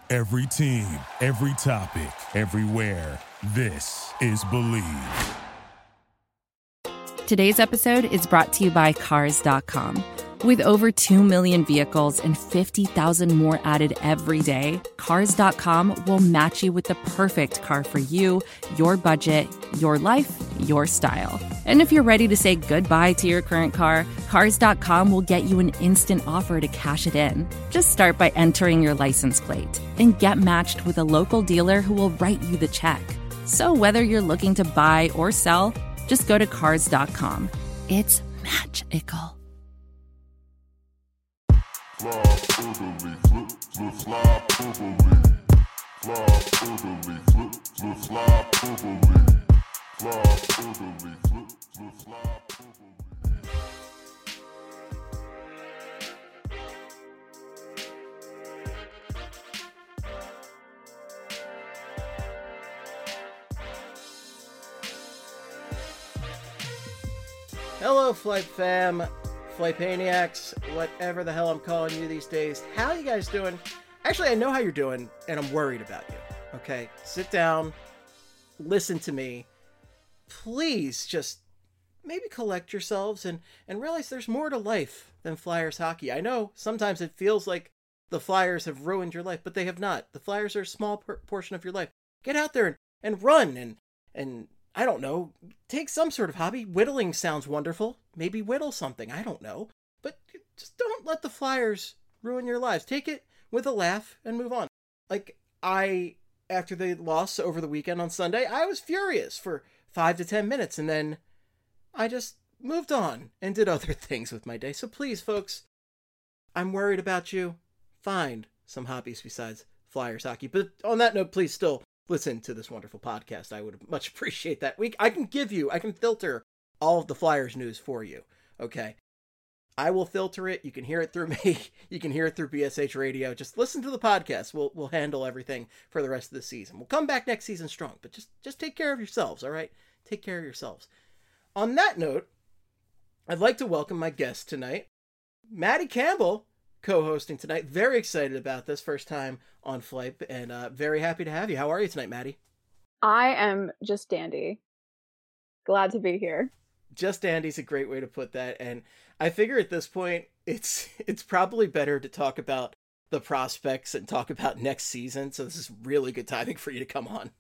Every team, every topic, everywhere. This is Believe. Today's episode is brought to you by Cars.com. With over 2 million vehicles and 50,000 more added every day, Cars.com will match you with the perfect car for you, your budget, your life, your style. And if you're ready to say goodbye to your current car, Cars.com will get you an instant offer to cash it in. Just start by entering your license plate and get matched with a local dealer who will write you the check. So whether you're looking to buy or sell, just go to Cars.com. It's magical. Hello, Flight fam, Flightpaniacs, whatever the hell I'm calling you these days. How you guys doing? Actually, I know how you're doing, and I'm worried about you. Okay, sit down, listen to me. Please just maybe collect yourselves and realize there's more to life than Flyers hockey. I know sometimes it feels like the Flyers have ruined your life, but they have not. The Flyers are a small portion of your life. Get out there and run and I don't know, take some sort of hobby. Whittling sounds wonderful. Maybe whittle something. I don't know. But just don't let the Flyers ruin your lives. Take it with a laugh and move on. Like, after the loss over the weekend on Sunday, I was furious for 5 to 10 minutes, and then I just moved on and did other things with my day. So please, folks, I'm worried about you. Find some hobbies besides Flyers hockey. But on that note, please still listen to this wonderful podcast. I would much appreciate that. I can filter all of the Flyers news for you. Okay. I will filter it. You can hear it through me. You can hear it through BSH Radio. Just listen to the podcast. We'll handle everything for the rest of the season. We'll come back next season strong, but just take care of yourselves. All right. Take care of yourselves. On that note, I'd like to welcome my guest tonight, Maddie Campbell, co-hosting tonight. Very excited about this, first time on Flight, and very happy to have you. How are you tonight, Maddie? I am just dandy. Glad to be here. Just dandy's a great way to put that, and I figure at this point it's probably better to talk about the prospects and talk about next season, so this is really good timing for you to come on.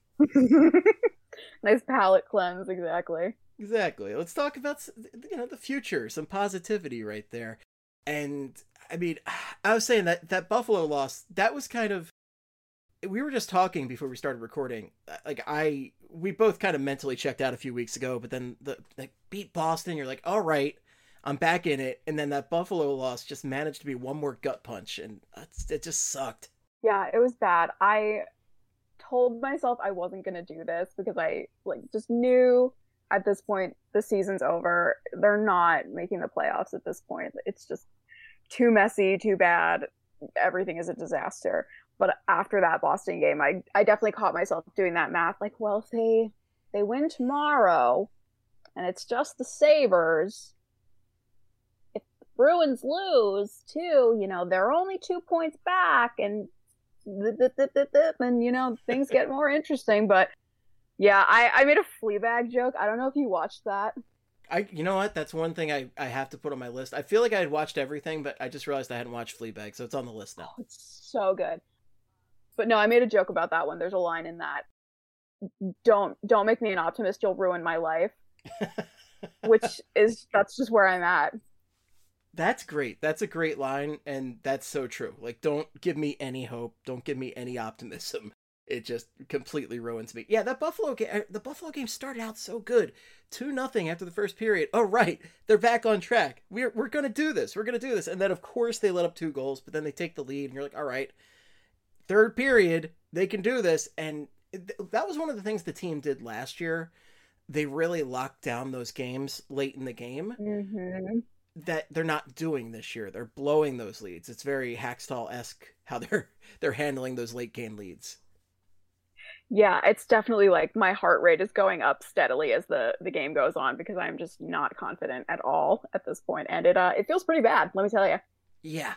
Nice palate cleanse, exactly. Let's talk about, the future, some positivity right there. And I mean, I was saying that Buffalo loss, that was kind of, we were just talking before we started recording. Like, we both kind of mentally checked out a few weeks ago, but then beat Boston, you're like, all right, I'm back in it. And then that Buffalo loss just managed to be one more gut punch, and it just sucked. Yeah, it was bad. I told myself I wasn't going to do this because I just knew at this point the season's over. They're not making the playoffs at this point. It's just too messy, too bad. Everything is a disaster. But after that Boston game, I definitely caught myself doing that math. Like, well, if they win tomorrow and it's just the Sabres, if the Bruins lose too, they're only 2 points back, and things get more interesting. But yeah, I made a Fleabag joke. I don't know if you watched that. You know what? That's one thing I have to put on my list. I feel like I had watched everything, but I just realized I hadn't watched Fleabag, so it's on the list now. Oh, it's so good. But no, I made a joke about that one. There's a line in that. Don't make me an optimist. You'll ruin my life. That's just where I'm at. That's great. That's a great line, and that's so true. Like, don't give me any hope. Don't give me any optimism. It just completely ruins me. Yeah, the Buffalo game started out so good. 2-0 after the first period. Oh, right. They're back on track. We're going to do this. We're going to do this. And then, of course, they let up 2 goals, but then they take the lead, and you're like, all right, third period, they can do this. And that was one of the things the team did last year. They really locked down those games late in the game. Mm-hmm. That they're not doing this year. They're blowing those leads. It's very Hackstall-esque how they're handling those late game leads. Yeah, it's definitely like my heart rate is going up steadily as the game goes on because I'm just not confident at all at this point. And it feels pretty bad, let me tell you. Yeah.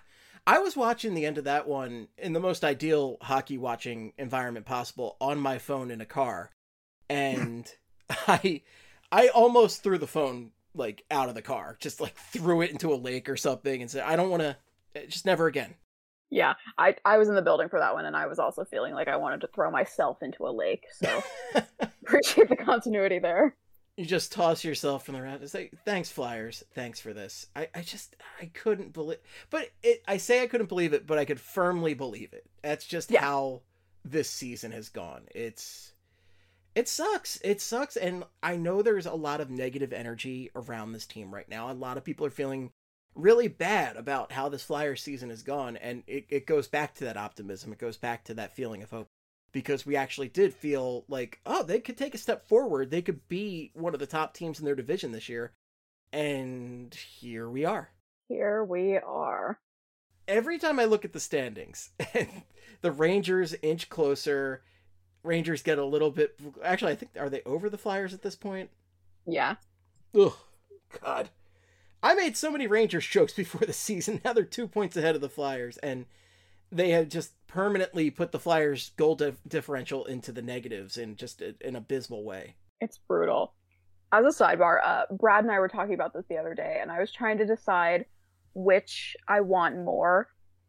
I was watching the end of that one in the most ideal hockey watching environment possible on my phone in a car. And I almost threw the phone like out of the car, just like threw it into a lake or something and said, I don't want to, just never again. Yeah, I was in the building for that one, and I was also feeling like I wanted to throw myself into a lake, so appreciate the continuity there. You just toss yourself from the round and say, thanks, Flyers. Thanks for this. I couldn't believe, but I say I couldn't believe it, but I could firmly believe it. That's just how this season has gone. It sucks. It sucks. And I know there's a lot of negative energy around this team right now. A lot of people are feeling really bad about how this Flyers season has gone. And it goes back to that optimism. It goes back to that feeling of hope. Because we actually did feel like, oh, they could take a step forward. They could be one of the top teams in their division this year. And here we are. Here we are. Every time I look at the standings, and the Rangers inch closer, Rangers get a little bit... Actually, I think, are they over the Flyers at this point? Yeah. Ugh, God. I made so many Rangers jokes before the season. Now they're 2 points ahead of the Flyers, and they have just permanently put the Flyers' goal differential into the negatives in just an abysmal way. It's brutal. As a sidebar, Brad and I were talking about this the other day, and I was trying to decide which I want more.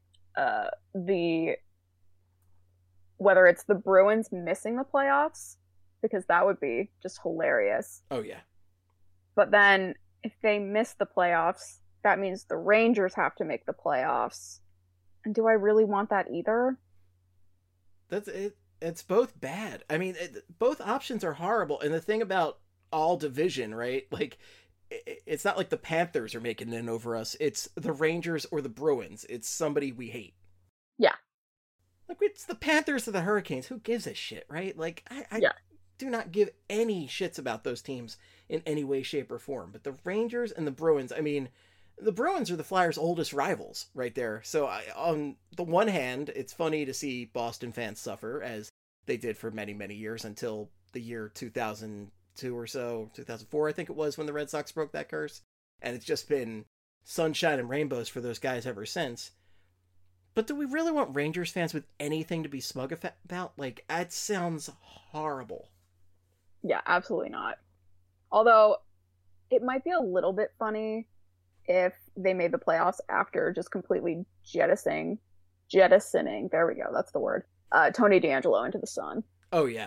Whether it's the Bruins missing the playoffs, because that would be just hilarious. Oh, yeah. But then, if they miss the playoffs, that means the Rangers have to make the playoffs. And do I really want that either? That's it. It's both bad. I mean, both options are horrible. And the thing about all division, right? Like, it's not like the Panthers are making it in over us. It's the Rangers or the Bruins. It's somebody we hate. Yeah. Like, it's the Panthers or the Hurricanes. Who gives a shit, right? Like, I do not give any shits about those teams in any way, shape, or form. But the Rangers and the Bruins, I mean... The Bruins are the Flyers' oldest rivals right there. So on the one hand, it's funny to see Boston fans suffer, as they did for many, many years until the year 2002 or so, 2004, I think it was, when the Red Sox broke that curse. And it's just been sunshine and rainbows for those guys ever since. But do we really want Rangers fans with anything to be smug about? Like, that sounds horrible. Yeah, absolutely not. Although, it might be a little bit funny if they made the playoffs after just completely jettisoning, there we go, that's the word, Tony DeAngelo into the sun. Oh, yeah.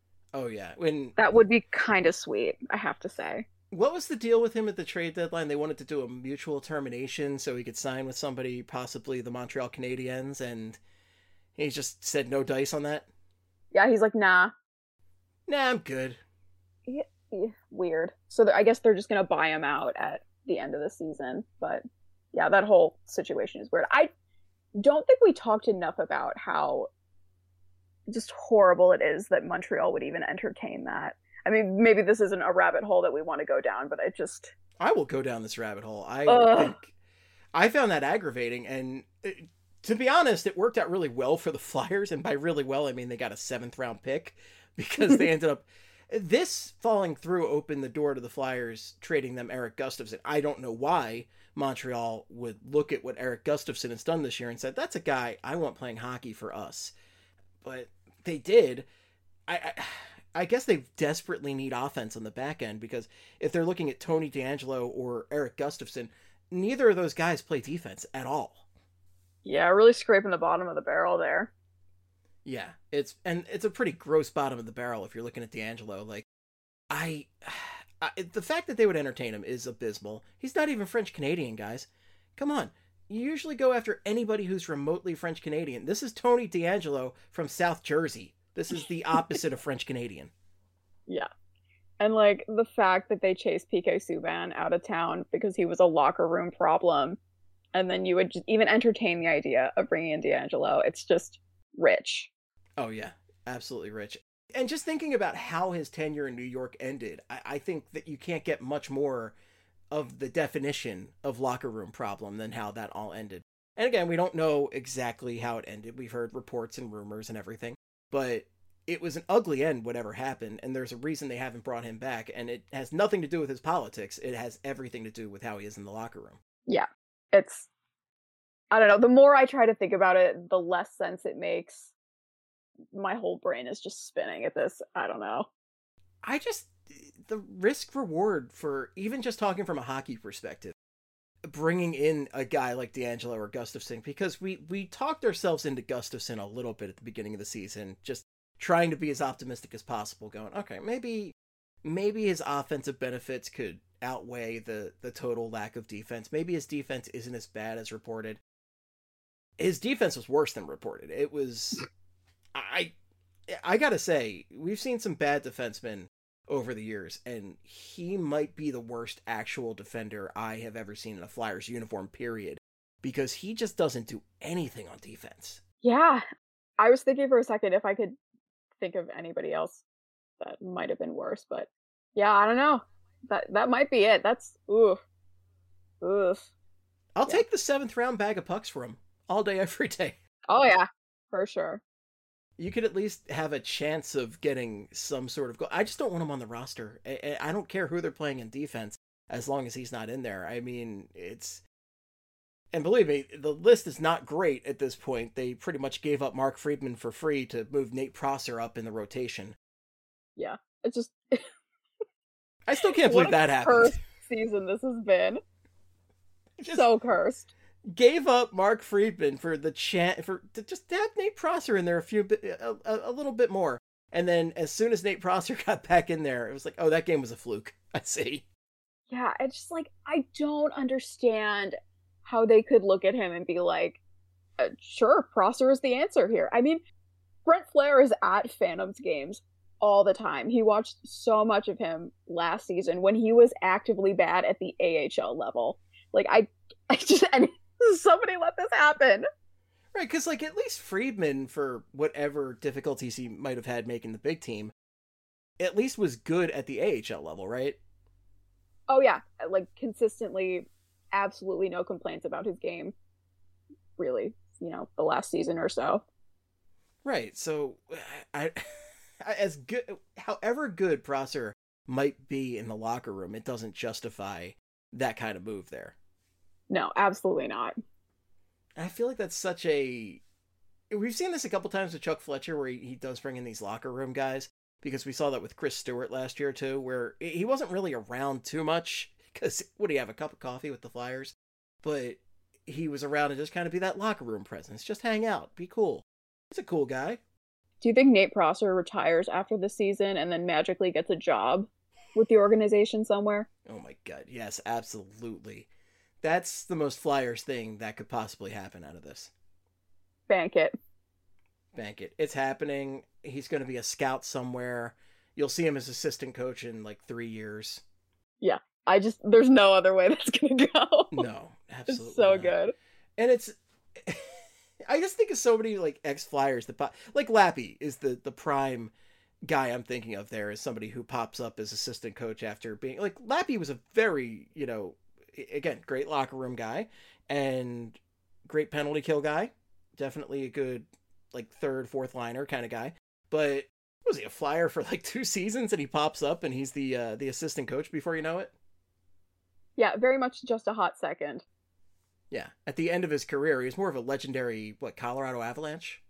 That would be kind of sweet, I have to say. What was the deal with him at the trade deadline? They wanted to do a mutual termination so he could sign with somebody, possibly the Montreal Canadiens, and he just said no dice on that? Yeah, he's like, nah, I'm good. Yeah, weird. So I guess they're just going to buy him out at the end of the season. But yeah, that whole situation is weird. I don't think we talked enough about how just horrible it is that Montreal would even entertain that. I mean, maybe this isn't a rabbit hole that we want to go down, but I will go down this rabbit hole. I think I found that aggravating, and to be honest, it worked out really well for the Flyers, and by really well, I mean they got a 7th round pick, because they ended up... This falling through opened the door to the Flyers trading them Erik Gustafsson. I don't know why Montreal would look at what Erik Gustafsson has done this year and said, that's a guy I want playing hockey for us. But they did. I guess they desperately need offense on the back end, because if they're looking at Tony DeAngelo or Erik Gustafsson, neither of those guys play defense at all. Yeah, really scraping the bottom of the barrel there. Yeah, it's a pretty gross bottom of the barrel if you're looking at DeAngelo. Like, the fact that they would entertain him is abysmal. He's not even French Canadian, guys. Come on. You usually go after anybody who's remotely French Canadian. This is Tony DeAngelo from South Jersey. This is the opposite of French Canadian. Yeah. And like the fact that they chased PK Subban out of town because he was a locker room problem, and then you would just even entertain the idea of bringing in DeAngelo. It's just rich. Oh, yeah. Absolutely rich. And just thinking about how his tenure in New York ended, I think that you can't get much more of the definition of locker room problem than how that all ended. And again, we don't know exactly how it ended. We've heard reports and rumors and everything, but it was an ugly end, whatever happened. And there's a reason they haven't brought him back. And it has nothing to do with his politics. It has everything to do with how he is in the locker room. Yeah. I don't know. The more I try to think about it, the less sense it makes. My whole brain is just spinning at this. I don't know. The risk reward for even just talking from a hockey perspective, bringing in a guy like DeAngelo or Gustafsson, because we talked ourselves into Gustafsson a little bit at the beginning of the season, just trying to be as optimistic as possible, going, okay, maybe his offensive benefits could outweigh the total lack of defense. Maybe his defense isn't as bad as reported. His defense was worse than reported. It was, I gotta say, we've seen some bad defensemen over the years, and he might be the worst actual defender I have ever seen in a Flyers uniform, period, because he just doesn't do anything on defense. Yeah. I was thinking for a second if I could think of anybody else that might have been worse, but yeah, I don't know. That might be it. That's oof. I'll take the 7th round bag of pucks for him all day, every day. Oh yeah, for sure. You could at least have a chance of getting some sort of goal. I just don't want him on the roster. I don't care who they're playing in defense as long as he's not in there. I mean, and believe me, the list is not great at this point. They pretty much gave up Mark Friedman for free to move Nate Prosser up in the rotation. Yeah, it's just... I still can't believe that happened. Cursed season this has been. So cursed. Gave up Mark Friedman for the to just have Nate Prosser in there a little bit more, and then as soon as Nate Prosser got back in there, it was like, oh, that game was a fluke. I see. Yeah, it's just like, I don't understand how they could look at him and be like, sure, Prosser is the answer here. I mean, Brent Flair is at Phantoms games all the time. He watched so much of him last season when he was actively bad at the AHL level. Like, I just, and somebody let this happen. Right, because, like, at least Friedman, for whatever difficulties he might have had making the big team, at least was good at the AHL level, right? Oh, yeah. Like, consistently, absolutely no complaints about his game, really, the last season or so. Right, so, however good Prosser might be in the locker room, it doesn't justify that kind of move there. No, absolutely not. I feel like that's we've seen this a couple times with Chuck Fletcher, where he does bring in these locker room guys, because we saw that with Chris Stewart last year too, where he wasn't really around too much, because would he have a cup of coffee with the Flyers? But he was around to just kind of be that locker room presence, just hang out, be cool. He's a cool guy. Do you think Nate Prosser retires after the season and then magically gets a job with the organization somewhere? Oh my God, yes, absolutely. That's the most Flyers thing that could possibly happen out of this. Bank it. It's happening. He's going to be a scout somewhere. You'll see him as assistant coach in like 3 years. Yeah. There's no other way that's going to go. No, absolutely. It's so not. good. And I just think of so many like ex-Flyers like Lappy is the prime guy I'm thinking of there, as somebody who pops up as assistant coach after being like, Lappy was a very, again, great locker room guy and great penalty kill guy. Definitely a good, like, 3rd, 4th liner kind of guy. But was he a Flyer for like 2 seasons and he pops up and he's the assistant coach before you know it? Yeah, very much just a hot second. Yeah. At the end of his career, he was more of a legendary, Colorado Avalanche?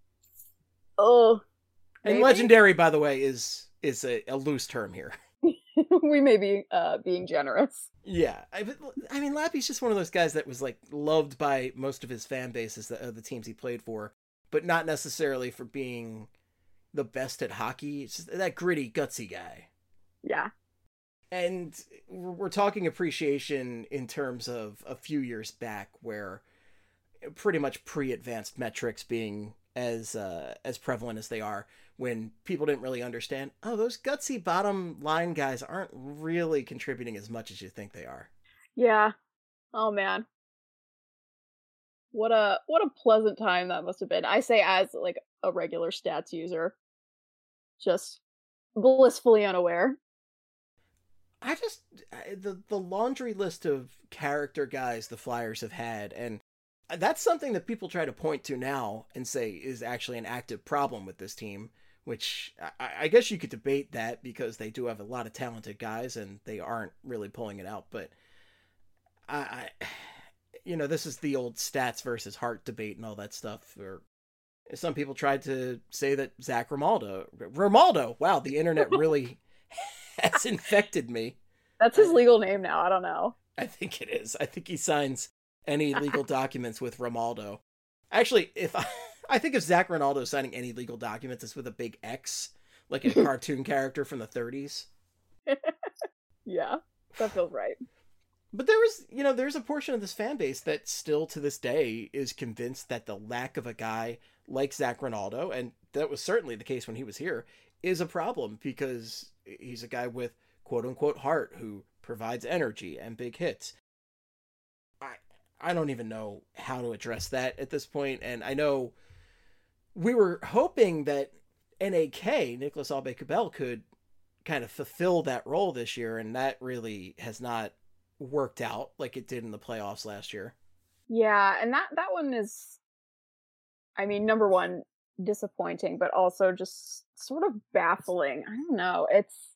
Oh. And legendary, by the way, is a loose term here. We may be being generous. Yeah. I mean, Lappy's just one of those guys that was, like, loved by most of his fan bases, the teams he played for, but not necessarily for being the best at hockey. It's just that gritty, gutsy guy. Yeah. And we're talking appreciation in terms of a few years back, where pretty much pre-advanced metrics being as prevalent as they are, when people didn't really understand, oh, those gutsy bottom line guys aren't really contributing as much as you think they are. Yeah. Oh man. What a pleasant time that must have been. I say as like a regular stats user, just blissfully unaware. The laundry list of character guys the Flyers have had, and that's something that people try to point to now and say is actually an active problem with this team, which I guess you could debate that, because they do have a lot of talented guys and they aren't really pulling it out. But this is the old stats versus heart debate and all that stuff. Or some people tried to say that Zach Romaldo, wow, the internet really has infected me. That's his legal name now. I don't know. I think it is. I think he signs any legal documents with Romaldo. Actually, I think if Zach Ronaldo is signing any legal documents, it's with a big X, like a cartoon character from the 30s. Yeah, that feels right. But there's a portion of this fan base that still to this day is convinced that the lack of a guy like Zach Ronaldo, and that was certainly the case when he was here, is a problem because he's a guy with quote unquote heart who provides energy and big hits. I don't even know how to address that at this point, and I know we were hoping that NAK, Nicolas Aube-Kubel, could kind of fulfill that role this year, and that really has not worked out like it did in the playoffs last year. Yeah, and that one is, I mean, number one, disappointing, but also just sort of baffling. I don't know.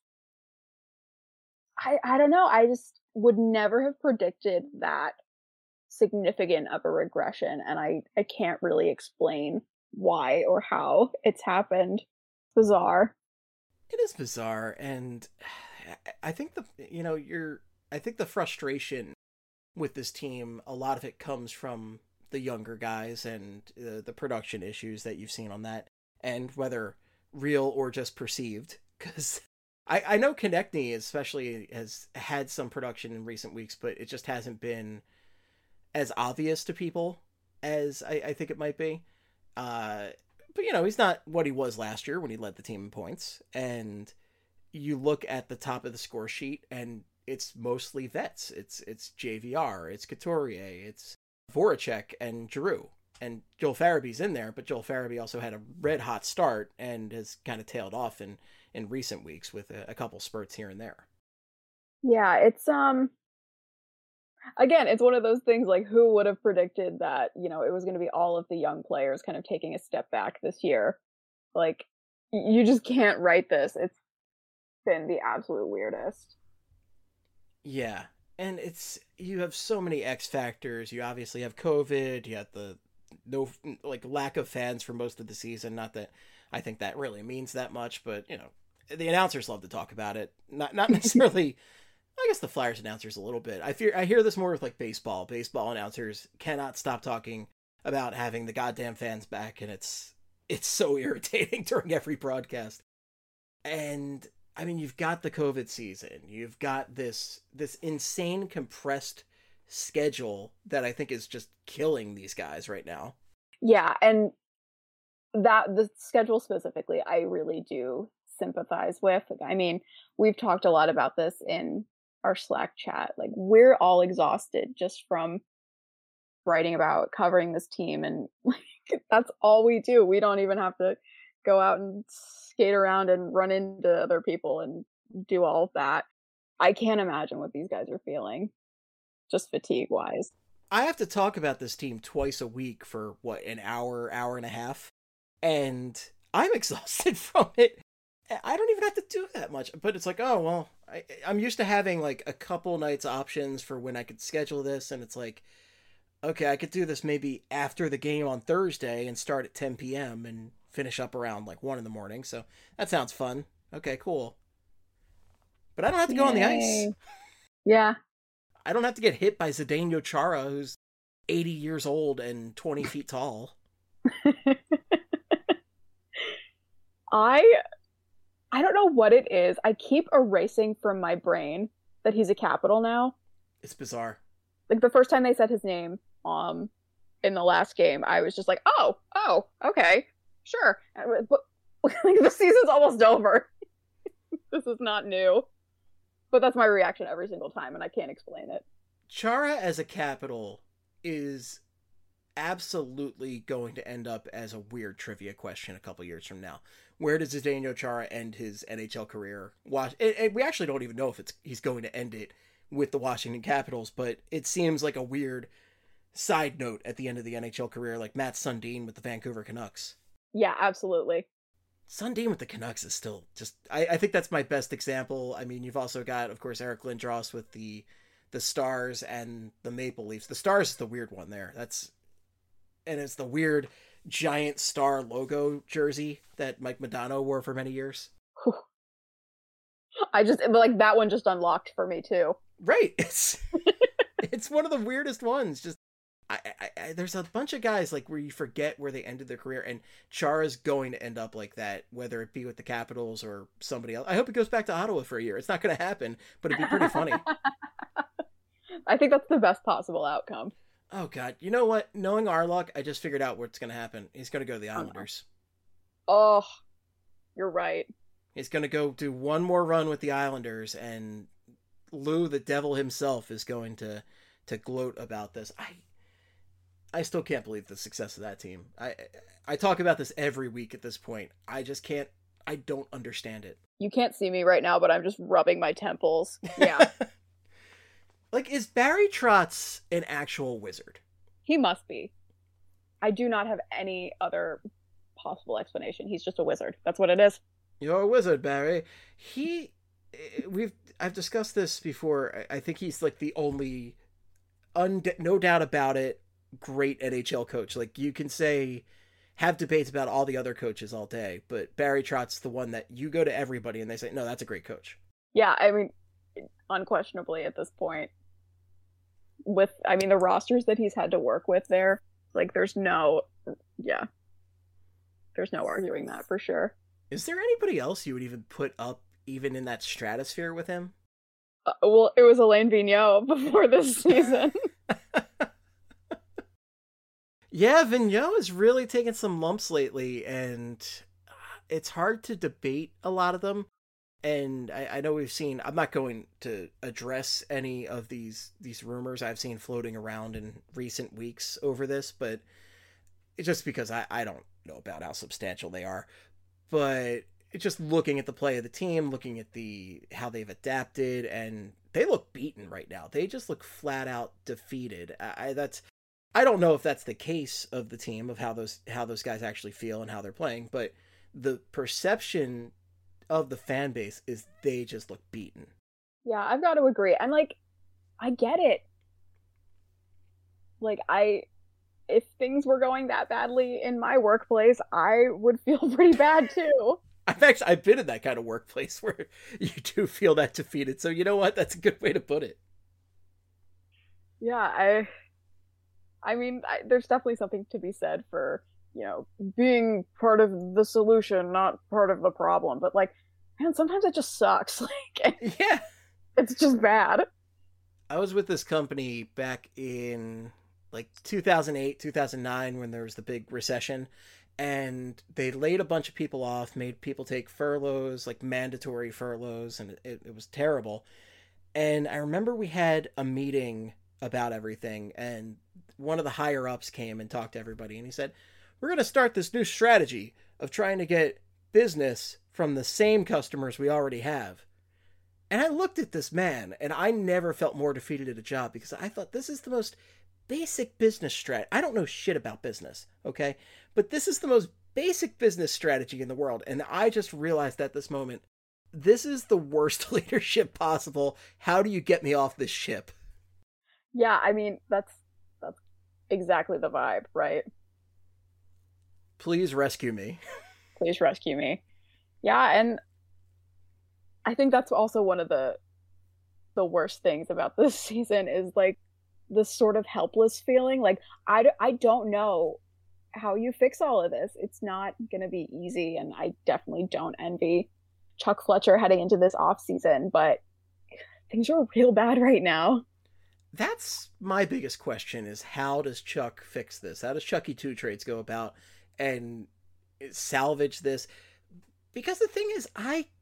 I don't know. I just would never have predicted that significant of a regression, and I can't really explain why or how it's happened. It's bizarre. It is bizarre, and I think I think the frustration with this team, a lot of it comes from the younger guys and the production issues that you've seen on that, and whether real or just perceived, because I know Konechny especially has had some production in recent weeks, but it just hasn't been as obvious to people as I think it might be. But he's not what he was last year when he led the team in points, and you look at the top of the score sheet and it's mostly vets. It's JVR, it's Couturier, it's Voracek and Giroux, and Joel Farabee's in there, but Joel Farabee also had a red hot start and has kind of tailed off in recent weeks with a couple spurts here and there. Yeah, it's again, it's one of those things like, who would have predicted that, it was going to be all of the young players kind of taking a step back this year? Like, you just can't write this. It's been the absolute weirdest. Yeah, and you have so many X factors. You obviously have COVID. You have the lack of fans for most of the season. Not that I think that really means that much, but the announcers love to talk about it. Not necessarily. I guess the Flyers announcers a little bit. I hear this more with like baseball. Baseball announcers cannot stop talking about having the goddamn fans back, and it's so irritating during every broadcast. And I mean, you've got the COVID season. You've got this insane compressed schedule that I think is just killing these guys right now. Yeah, and that the schedule specifically, I really do sympathize with. I mean, we've talked a lot about this in our Slack chat. Like, we're all exhausted just from writing about covering this team, and like, that's all we do. We don't even have to go out and skate around and run into other people and do all of that. I can't imagine what these guys are feeling, just fatigue wise. I have to talk about this team twice a week for an hour and a half, and I'm exhausted from it. I don't even have to do that much, but it's like, oh, well, I'm used to having like a couple nights options for when I could schedule this, and it's like, okay, I could do this maybe after the game on Thursday and start at 10 p.m. and finish up around like 1 a.m. So that sounds fun. Okay, cool. But I don't have to go on the ice. Yeah. I don't have to get hit by Zdeno Chara, who's 80 years old and 20 feet tall. I don't know what it is. I keep erasing from my brain that he's a Capital now. It's bizarre. Like, the first time they said his name in the last game, I was just like, oh, okay, sure. But like, the season's almost over. This is not new. But that's my reaction every single time, and I can't explain it. Chara as a Capital is absolutely going to end up as a weird trivia question a couple years from now. Where does Zdeno Chara end his NHL career? And we actually don't even know if he's going to end it with the Washington Capitals, but it seems like a weird side note at the end of the NHL career, like Matt Sundin with the Vancouver Canucks. Yeah, absolutely. Sundin with the Canucks is still just... I think that's my best example. I mean, you've also got, of course, Eric Lindros with the the Stars and the Maple Leafs. The Stars is the weird one there. And it's the weird giant star logo jersey that Mike Modano wore for many years. I just, like, that one just unlocked for me too. Right. It's one of the weirdest ones. Just there's a bunch of guys like where you forget where they ended their career, and Chara's going to end up like that, whether it be with the Capitals or somebody else. I hope it goes back to Ottawa for a year. It's not going to happen, but it'd be pretty funny. I think that's the best possible outcome. Oh God, you know what? Knowing our luck, I just figured out what's going to happen. He's going to go to the Islanders. Oh, you're right. He's going to go do one more run with the Islanders, and Lou, the devil himself, is going to gloat about this. I still can't believe the success of that team. I talk about this every week at this point. I just can't. I don't understand it. You can't see me right now, but I'm just rubbing my temples. Yeah. Like, is Barry Trotz an actual wizard? He must be. I do not have any other possible explanation. He's just a wizard. That's what it is. You're a wizard, Barry. I've discussed this before. I think he's like the only, no doubt about it, great NHL coach. Like, you can have debates about all the other coaches all day, but Barry Trotz's the one that you go to everybody and they say, no, that's a great coach. Yeah, I mean, unquestionably at this point, the rosters that he's had to work with there, like, there's no arguing that for sure. Is there anybody else you would even put up even in that stratosphere with him? Well, it was Alain Vigneault before this season. Yeah, Vigneault has really taken some lumps lately, and it's hard to debate a lot of them. And I know I'm not going to address any of these rumors I've seen floating around in recent weeks over this, but it's just because I don't know about how substantial they are. But it's just looking at the play of the team, looking at how they've adapted, and they look beaten right now. They just look flat out defeated. I don't know if that's the case of the team, of how those guys actually feel and how they're playing, but the perception of the fan base is they just look beaten. Yeah, I've got to agree. And like, I get it. Like, if things were going that badly in my workplace, I would feel pretty bad too. I've been in that kind of workplace where you do feel that defeated. So you know what? That's a good way to put it. Yeah, I mean, there's definitely something to be said for, being part of the solution, not part of the problem. But like, man, sometimes it just sucks. Like, yeah, it's just bad. I was with this company back in like 2008, 2009, when there was the big recession, and they laid a bunch of people off, made people take furloughs, like mandatory furloughs, and it was terrible. And I remember we had a meeting about everything, and one of the higher ups came and talked to everybody, and he said, we're going to start this new strategy of trying to get business from the same customers we already have. And I looked at this man, and I never felt more defeated at a job, because I thought, this is the most basic business strat. I don't know shit about business, okay? But this is the most basic business strategy in the world. And I just realized at this moment, this is the worst leadership possible. How do you get me off this ship? Yeah, I mean, that's exactly the vibe, right? Please rescue me. Please rescue me. Yeah, and I think that's also one of the worst things about this season is like this sort of helpless feeling. Like, I don't know how you fix all of this. It's not going to be easy, and I definitely don't envy Chuck Fletcher heading into this off season, but things are real bad right now. That's my biggest question, is how does Chuck fix this? How does Chucky Two Trades go about and salvage this? Because the thing is,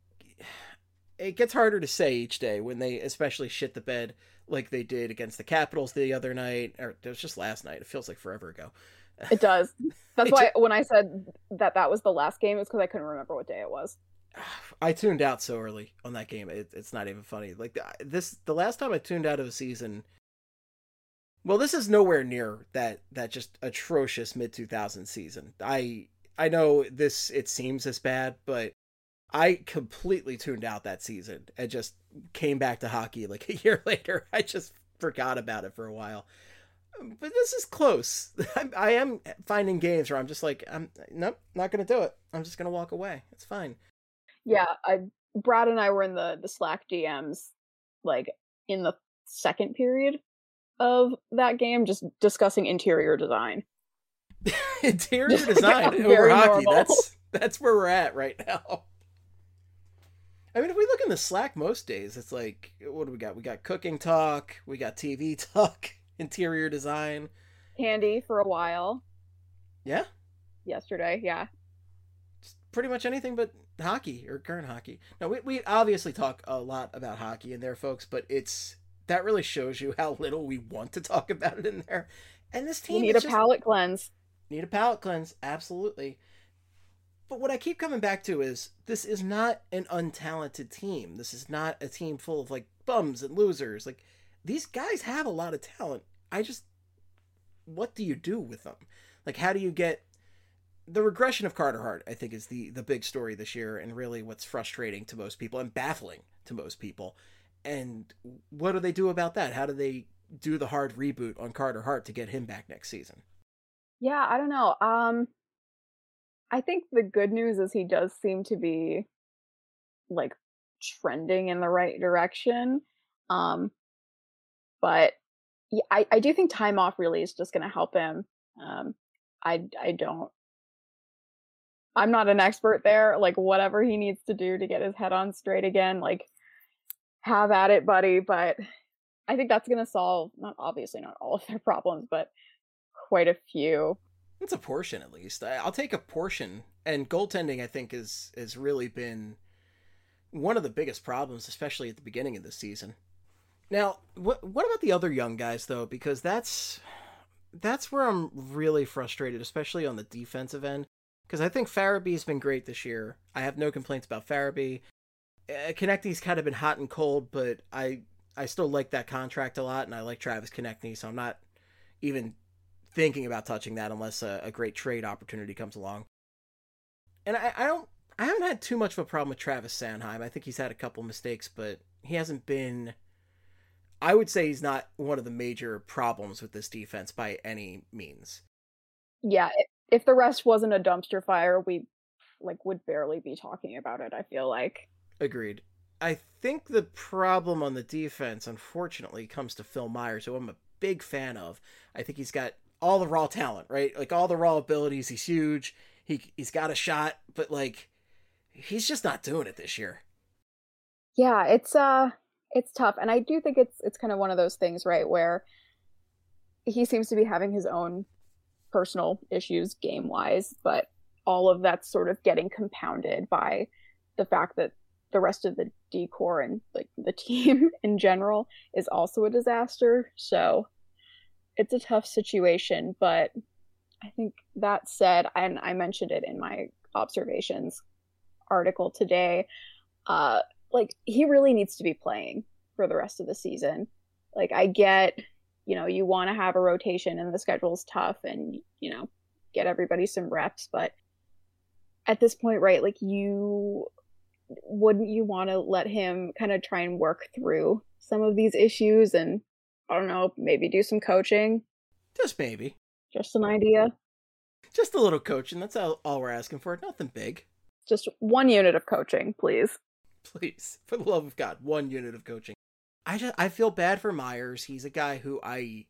it gets harder to say each day when they especially shit the bed like they did against the Capitals the other night, or it was just last night. It feels like forever ago. It does. That's why when I said that was the last game, it's because I couldn't remember what day it was. I tuned out so early on that game. It's not even funny. Like the last time I tuned out of a season. Well, this is nowhere near that just atrocious mid-2000s season. I know it seems as bad, but I completely tuned out that season and just came back to hockey like a year later. I just forgot about it for a while. But this is close. I am finding games where I'm just like, nope, not going to do it. I'm just going to walk away. It's fine. Yeah, Brad and I were in the Slack DMs, like, in the second period of that game, just discussing interior design. Interior design over hockey. That's where we're at right now. I mean, if we look in the Slack most days, it's like, what do we got? We got cooking talk, we got TV talk, interior design. Candy for a while. Yeah? Yesterday, yeah. Just pretty much anything but hockey or current hockey. Now, we obviously talk a lot about hockey in there, folks, but that really shows you how little we want to talk about it in there. And this team need a palate cleanse. Need a palate cleanse, absolutely. But what I keep coming back to is this is not an untalented team. This is not a team full of like bums and losers. Like, these guys have a lot of talent. What do you do with them? Like, how do you get the regression of Carter Hart? I think is the big story this year, and really what's frustrating to most people and baffling to most people. And what do they do about that? How do they do the hard reboot on Carter Hart to get him back next season? Yeah, I don't know. I think the good news is he does seem to be like trending in the right direction. But yeah, I do think time off really is just going to help him. I'm not an expert there. Like, whatever he needs to do to get his head on straight again, like, have at it, buddy. But I think that's going to solve, obviously not all of their problems, but quite a few. It's a portion, at least. I'll take a portion. And goaltending, I think, has really been one of the biggest problems, especially at the beginning of the season. Now, what about the other young guys, though? Because that's where I'm really frustrated, especially on the defensive end. Because I think Farabee's been great this year. I have no complaints about Farabee. Konechny's kind of been hot and cold, but I still like that contract a lot, and I like Travis Konechny, so I'm not even thinking about touching that unless a great trade opportunity comes along. And I haven't had too much of a problem with Travis Sanheim. I think he's had a couple mistakes, but he hasn't been, I would say he's not one of the major problems with this defense by any means. Yeah, if the rest wasn't a dumpster fire, we would barely be talking about it, I feel like. Agreed. I think the problem on the defense, unfortunately, comes to Phil Myers, who I'm a big fan of. I think he's got all the raw talent, right? Like, all the raw abilities. He's huge. He's got a shot, but like, he's just not doing it this year. Yeah, it's tough, and I do think it's kind of one of those things, right, where he seems to be having his own personal issues game-wise, but all of that's sort of getting compounded by the fact that the rest of the decor and like the team in general is also a disaster. So it's a tough situation, but I think that said, and I mentioned it in my observations article today, like, he really needs to be playing for the rest of the season. Like, I get, you want to have a rotation and the schedule's tough and, get everybody some reps, but at this point, right, like, wouldn't you want to let him kind of try and work through some of these issues and, I don't know, maybe do some coaching? Just maybe. Just an idea. Just a little coaching. That's all we're asking for. Nothing big. Just 1 unit of coaching, please. Please, for the love of God, 1 unit of coaching. I feel bad for Myers. He's a guy who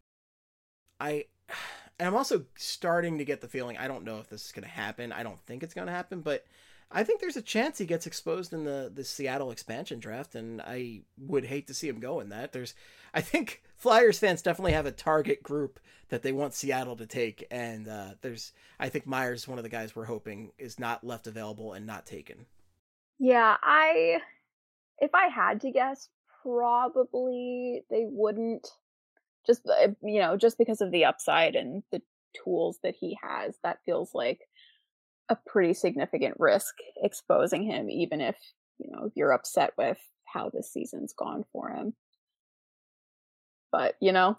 and I'm also starting to get the feeling, I don't know if this is going to happen. I don't think it's going to happen, but I think there's a chance he gets exposed in the Seattle expansion draft, and I would hate to see him go in that. I think Flyers fans definitely have a target group that they want Seattle to take, and I think Myers is one of the guys we're hoping is not left available and not taken. Yeah, if I had to guess, probably they wouldn't, just because of the upside and the tools that he has. That feels like a pretty significant risk exposing him, even if, you're upset with how this season's gone for him. But,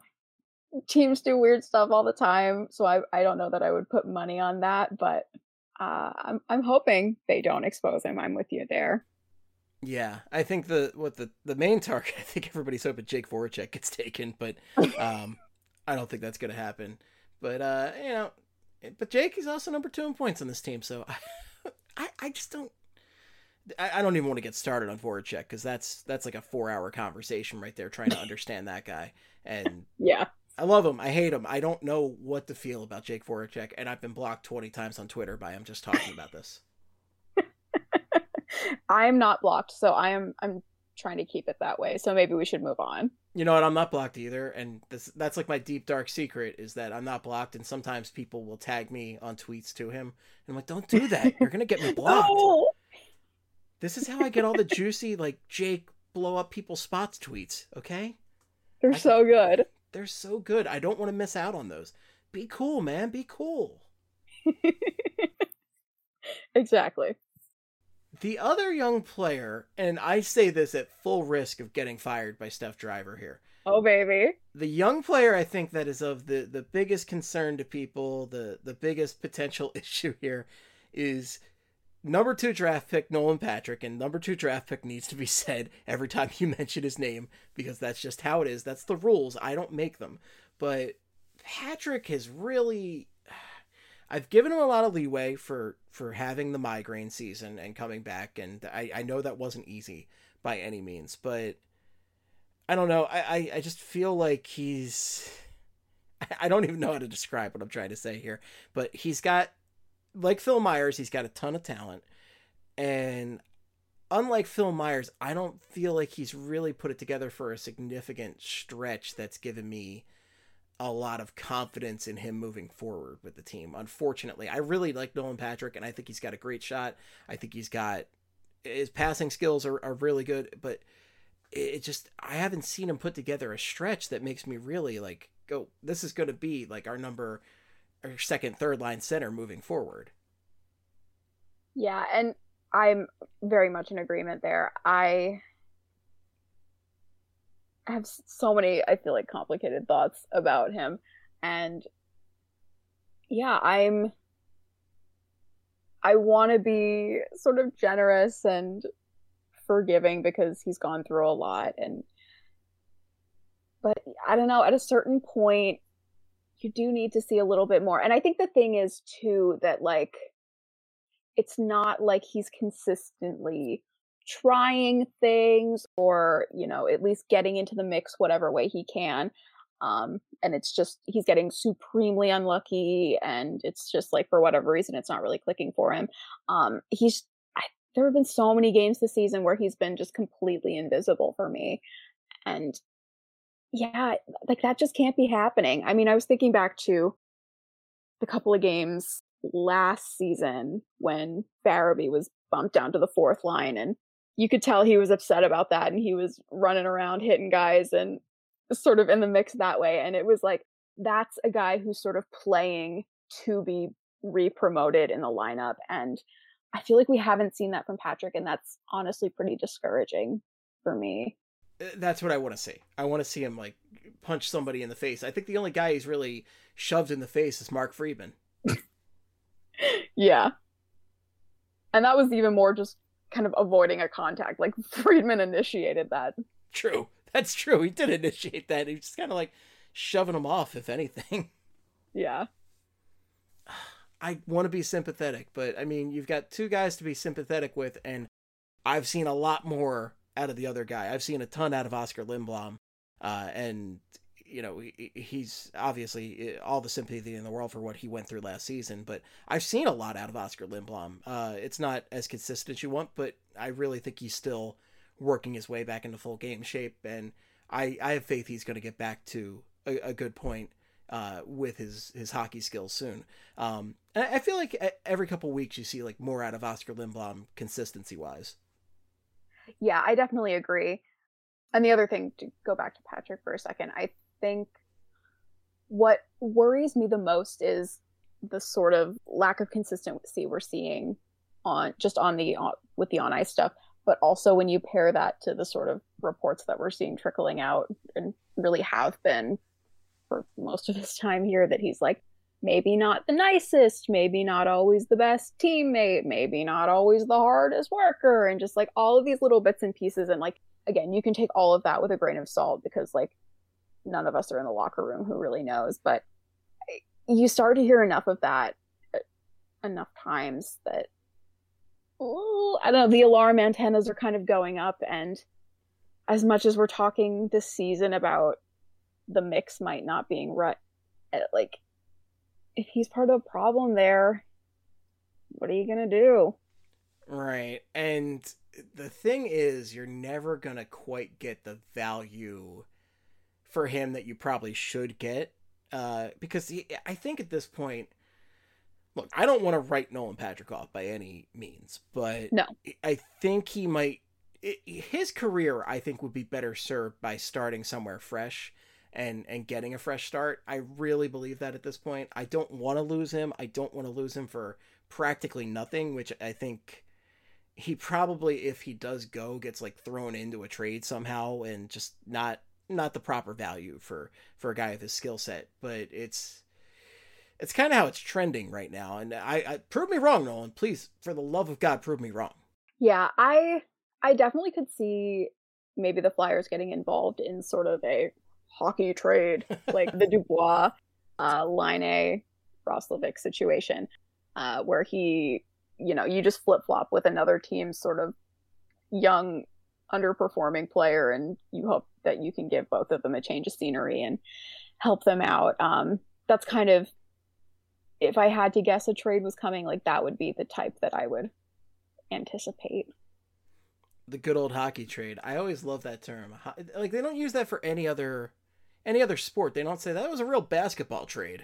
teams do weird stuff all the time, so I don't know that I would put money on that, but I'm hoping they don't expose him. I'm with you there. Yeah, I think the main target, I think everybody's hoping Jake Voracek gets taken, but I don't think that's going to happen. But but Jake is also number 2 in points on this team, so I just don't. I don't even want to get started on Voracek because that's like a 4-hour conversation right there trying to understand that guy. And yeah, I love him. I hate him. I don't know what to feel about Jake Voracek, and I've been blocked 20 times on Twitter by him just talking about this. I'm not blocked, so I'm trying to keep it that way. So maybe we should move on. You know what? I'm not blocked either, and that's like my deep dark secret is that I'm not blocked. And sometimes people will tag me on tweets to him, and I'm like, "Don't do that. You're gonna get me blocked." No! This is how I get all the juicy like Jake blow up people's spots tweets. Okay, They're so good. They're so good. I don't want to miss out on those. Be cool, man. Be cool. Exactly. The other young player, and I say this at full risk of getting fired by Steph Driver here. Oh, baby. The young player I think that is of the biggest concern to people, the biggest potential issue here is number 2 draft pick Nolan Patrick, and number 2 draft pick needs to be said every time you mention his name because that's just how it is. That's the rules. I don't make them. But Patrick has really... I've given him a lot of leeway for having the migraine season and coming back, and I know that wasn't easy by any means, but I don't know. I just feel like he's... I don't even know how to describe what I'm trying to say here, but he's got, like Phil Myers, he's got a ton of talent, and unlike Phil Myers, I don't feel like he's really put it together for a significant stretch that's given me a lot of confidence in him moving forward with the team. Unfortunately, I really like Nolan Patrick, and I think he's got a great shot. I think he's got his passing skills are really good, but it just, I haven't seen him put together a stretch that makes me really like go, this is going to be like our second, third line center moving forward. Yeah, and I'm very much in agreement there. I have so many, I feel like, complicated thoughts about him. And yeah, I want to be sort of generous and forgiving because he's gone through a lot. But I don't know, at a certain point, you do need to see a little bit more. And I think the thing is, too, that, like, it's not like he's consistently trying things or, you know, at least getting into the mix whatever way he can. And it's just, he's getting supremely unlucky, and it's just like, for whatever reason, it's not really clicking for him. There have been so many games this season where he's been just completely invisible for me. And yeah, like, that just can't be happening. I mean, I was thinking back to the couple of games last season when Farabee was bumped down to the 4th line, and you could tell he was upset about that, and he was running around hitting guys and sort of in the mix that way. And it was like, that's a guy who's sort of playing to be re-promoted in the lineup. And I feel like we haven't seen that from Patrick, and that's honestly pretty discouraging for me. That's what I want to see. I want to see him like punch somebody in the face. I think the only guy he's really shoved in the face is Mark Friedman. Yeah. And that was even more just kind of avoiding a contact. Like, Friedman initiated that. True. That's true. He did initiate that. He was just kind of like shoving him off, if anything. Yeah. I want to be sympathetic, but I mean, you've got 2 guys to be sympathetic with, and I've seen a lot more out of the other guy. I've seen a ton out of Oscar Lindblom, and you know, he's obviously all the sympathy in the world for what he went through last season, but I've seen a lot out of Oscar Lindblom. It's not as consistent as you want, but I really think he's still working his way back into full game shape, and I have faith he's going to get back to a good point with his hockey skills soon. And I feel like every couple weeks you see like more out of Oscar Lindblom consistency wise. Yeah, I definitely agree. And the other thing, to go back to Patrick for a second, I think what worries me the most is the sort of lack of consistency we're seeing with the on ice stuff, but also when you pair that to the sort of reports that we're seeing trickling out and really have been for most of his time here, that he's like maybe not the nicest, maybe not always the best teammate, maybe not always the hardest worker, and just like all of these little bits and pieces. And like, again, you can take all of that with a grain of salt because like none of us are in the locker room who really knows. But you start to hear enough of that enough times that, I don't know, the alarm antennas are kind of going up. And as much as we're talking this season about the mix might not being right, like, if he's part of the problem there, what are you gonna do? Right. And the thing is, you're never gonna quite get the value for him that you probably should get. Because I think at this point, look, I don't want to write Nolan Patrick off by any means, but No. I think he might, his career, I think, would be better served by starting somewhere fresh and getting a fresh start. I really believe that at this point. I don't want to lose him. I don't want to lose him for practically nothing, which I think he probably, if he does go, gets like thrown into a trade somehow and just not the proper value for a guy with his skill set. But it's kind of how it's trending right now. And I prove me wrong, Nolan. Please, for the love of God, prove me wrong. Yeah, I definitely could see maybe the Flyers getting involved in sort of a hockey trade, like the Dubois, Laine, Roslovic situation, where he, you just flip-flop with another team's sort of young, underperforming player, and you hope that you can give both of them a change of scenery and help them out. That's kind of, if I had to guess a trade was coming, like that would be the type that I would anticipate. The good old hockey trade. I always love that term. Like, they don't use that for any other sport. They don't say that was a real basketball trade.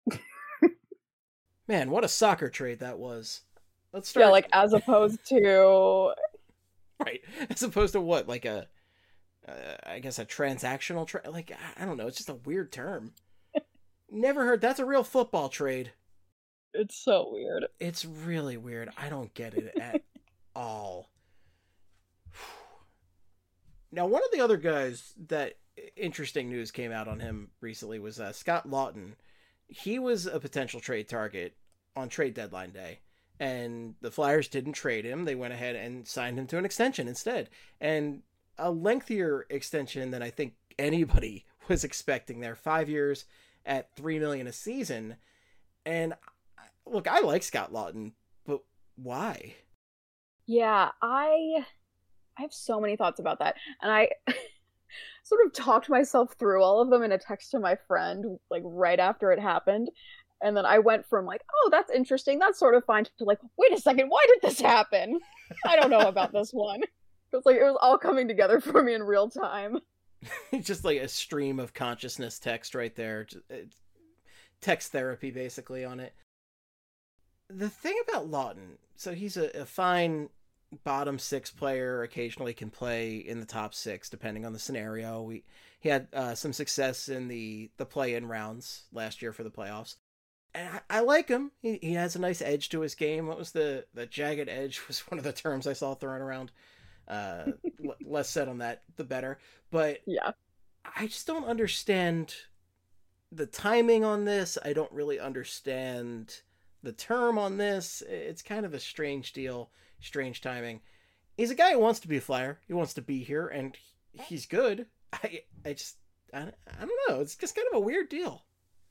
Man, what a soccer trade that was. Let's start. Yeah, like as opposed to right, as opposed to what, like I guess a transactional trade. Like, I don't know. It's just a weird term. Never heard. That's a real football trade. It's so weird. It's really weird. I don't get it at all. Now, one of the other guys that interesting news came out on him recently was Scott Laughton. He was a potential trade target on trade deadline day, and the Flyers didn't trade him. They went ahead and signed him to an extension instead, and a lengthier extension than I think anybody was expecting there. 5 years at $3 million a season. And look, I like Scott Laughton, but why? Yeah, I have so many thoughts about that. And I sort of talked myself through all of them in a text to my friend, like right after it happened. And then I went from like, oh, that's interesting, that's sort of fine, to like, wait a second, why did this happen? I don't know about this one. It was all coming together for me in real time. Just like a stream of consciousness text right there. Text therapy, basically, on it. The thing about Laughton, so he's a fine bottom six player, occasionally can play in the top six, depending on the scenario. He had some success in the play-in rounds last year for the playoffs. And I like him. He has a nice edge to his game. What was the jagged edge was one of the terms I saw thrown around. Less said on that, the better. But yeah, I just don't understand the timing on this. I don't really understand the term on this. It's kind of a strange deal, strange timing. He's a guy who wants to be a Flyer. He wants to be here, and he's good. I don't know. It's just kind of a weird deal.